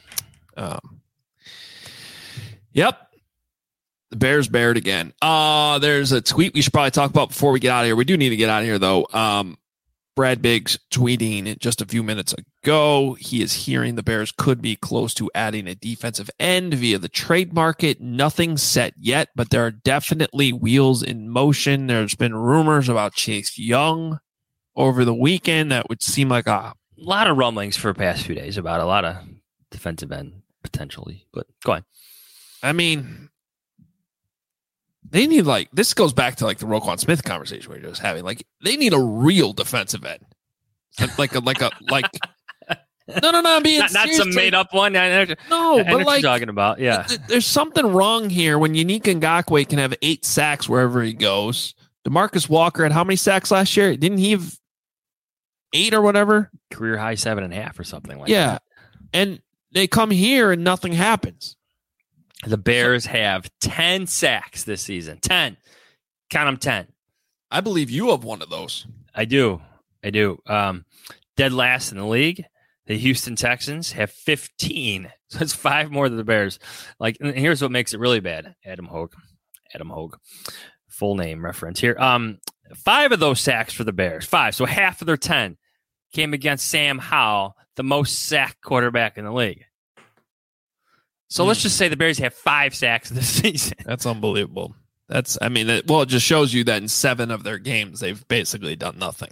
Yep. The Bears bared again. There's a tweet we should probably talk about before we get out of here. We do need to get out of here, though. Brad Biggs tweeting just a few minutes ago, he is hearing the Bears could be close to adding a defensive end via the trade market. Nothing set yet, but there are definitely wheels in motion. There's been rumors about Chase Young over the weekend that would seem like a lot of rumblings for the past few days about a lot of defensive end potentially, but go on. I mean, they need this goes back to the Roquan Smith conversation we were just having. They need a real defensive end, no. I'm being not some made up one. No, but what you're talking about, yeah. There's something wrong here when Yannick Ngakoue can have 8 sacks wherever he goes. DeMarcus Walker had how many sacks last year? Didn't he have 8 or whatever? Career high 7.5 or something like that. Yeah, and they come here and nothing happens. The Bears have 10 sacks this season. 10. Count them 10. I believe you have one of those. I do. Dead last in the league. The Houston Texans have 15. So it's 5 more than the Bears. And here's what makes it really bad. Adam Hogue. Full name reference here. 5 of those sacks for the Bears. 5. So half of their 10 came against Sam Howell, the most sacked quarterback in the league. So let's just say the Bears have 5 sacks this season. That's unbelievable. It just shows you that in 7 of their games, they've basically done nothing.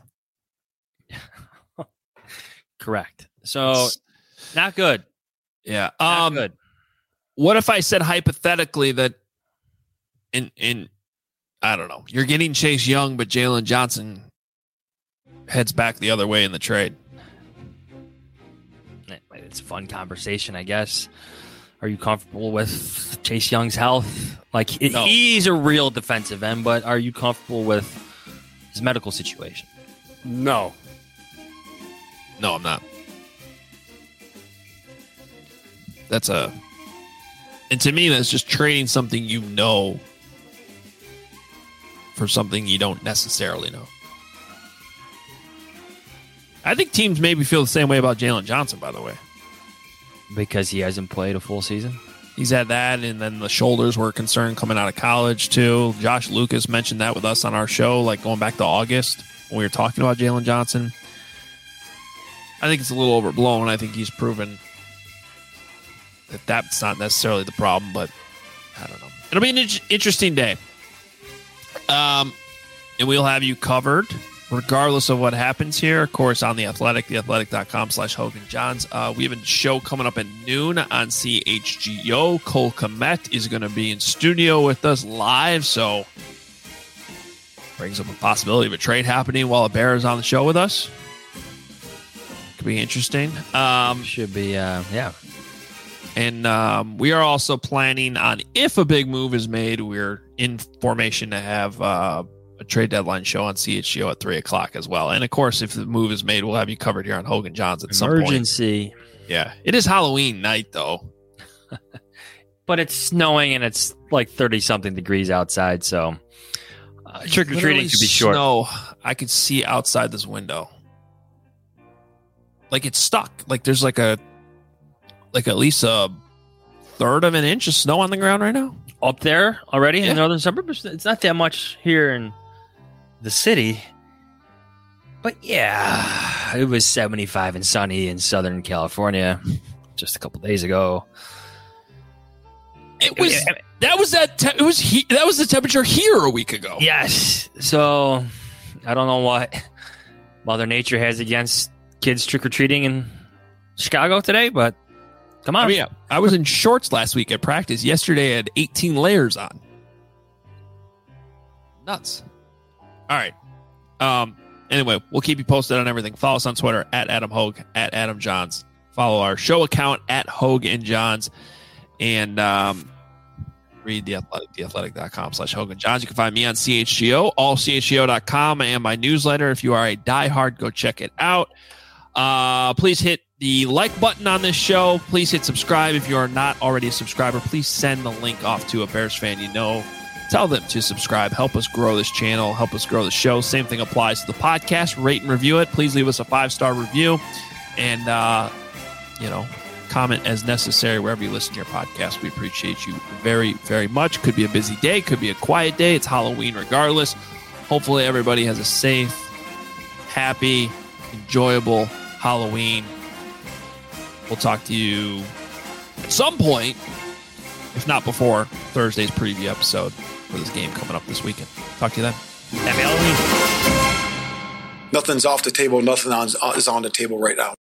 Correct. So not good. Yeah. Not good. What if I said hypothetically that in I don't know, you're getting Chase Young, but Jalen Johnson heads back the other way in the trade? It's a fun conversation, I guess. Are you comfortable with Chase Young's health? No. He's a real defensive end, but are you comfortable with his medical situation? No, I'm not. And to me, that's just trading something for something you don't necessarily know. I think teams maybe feel the same way about Jalen Johnson, by the way. Because he hasn't played a full season? He's had that, and then the shoulders were a concern coming out of college, too. Josh Lucas mentioned that with us on our show, going back to August when we were talking about Jalen Johnson. I think it's a little overblown. I think he's proven that that's not necessarily the problem, but I don't know. It'll be an interesting day. And we'll have you covered regardless of what happens here. Of course, on The Athletic, theathletic.com/Hogan Johns. We have a show coming up at noon on CHGO. Cole Kmet is going to be in studio with us live, so brings up a possibility of a trade happening while a Bear is on the show with us. Could be interesting. Should be, yeah. And we are also planning on, if a big move is made, we're in formation to have a trade deadline show on CHGO at 3 o'clock as well. And of course, if the move is made, we'll have you covered here on Hogan Johns at some point. Emergency. Yeah. It is Halloween night, though. But it's snowing and it's 30-something degrees outside, so trick-or-treating could be short. Snow, I could see outside this window. It's stuck. There's at least a third of an inch of snow on the ground right now. Up there already in the northern suburbs? It's not that much here in the city. But yeah, it was 75 and sunny in Southern California just a couple days ago. That was the temperature here a week ago. Yes. So I don't know what Mother Nature has against kids trick-or-treating in Chicago today, but come on. I was in shorts last week at practice. Yesterday I had 18 layers on. Nuts. All right. Anyway, we'll keep you posted on everything. Follow us on Twitter at Adam Hogue, at Adam Johns. Follow our show account at Hogue and Johns. And read The Athletic, theathletic.com/Hogan Johns. You can find me on CHGO, allchgo.com, and my newsletter. If you are a diehard, go check it out. Please hit the like button on this show. Please hit subscribe. If you are not already a subscriber, please send the link off to a Bears fan you know. Tell them to subscribe. Help us grow this channel. Help us grow the show. Same thing applies to the podcast. Rate and review it. Please leave us a 5-star review. And, comment as necessary wherever you listen to your podcast. We appreciate you very, very much. Could be a busy day. Could be a quiet day. It's Halloween regardless. Hopefully everybody has a safe happy, enjoyable Halloween. We'll talk to you at some point, if not before Thursday's preview episode for this game coming up this weekend. Talk to you then. Happy Halloween. Nothing's off the table. Nothing is on the table right now.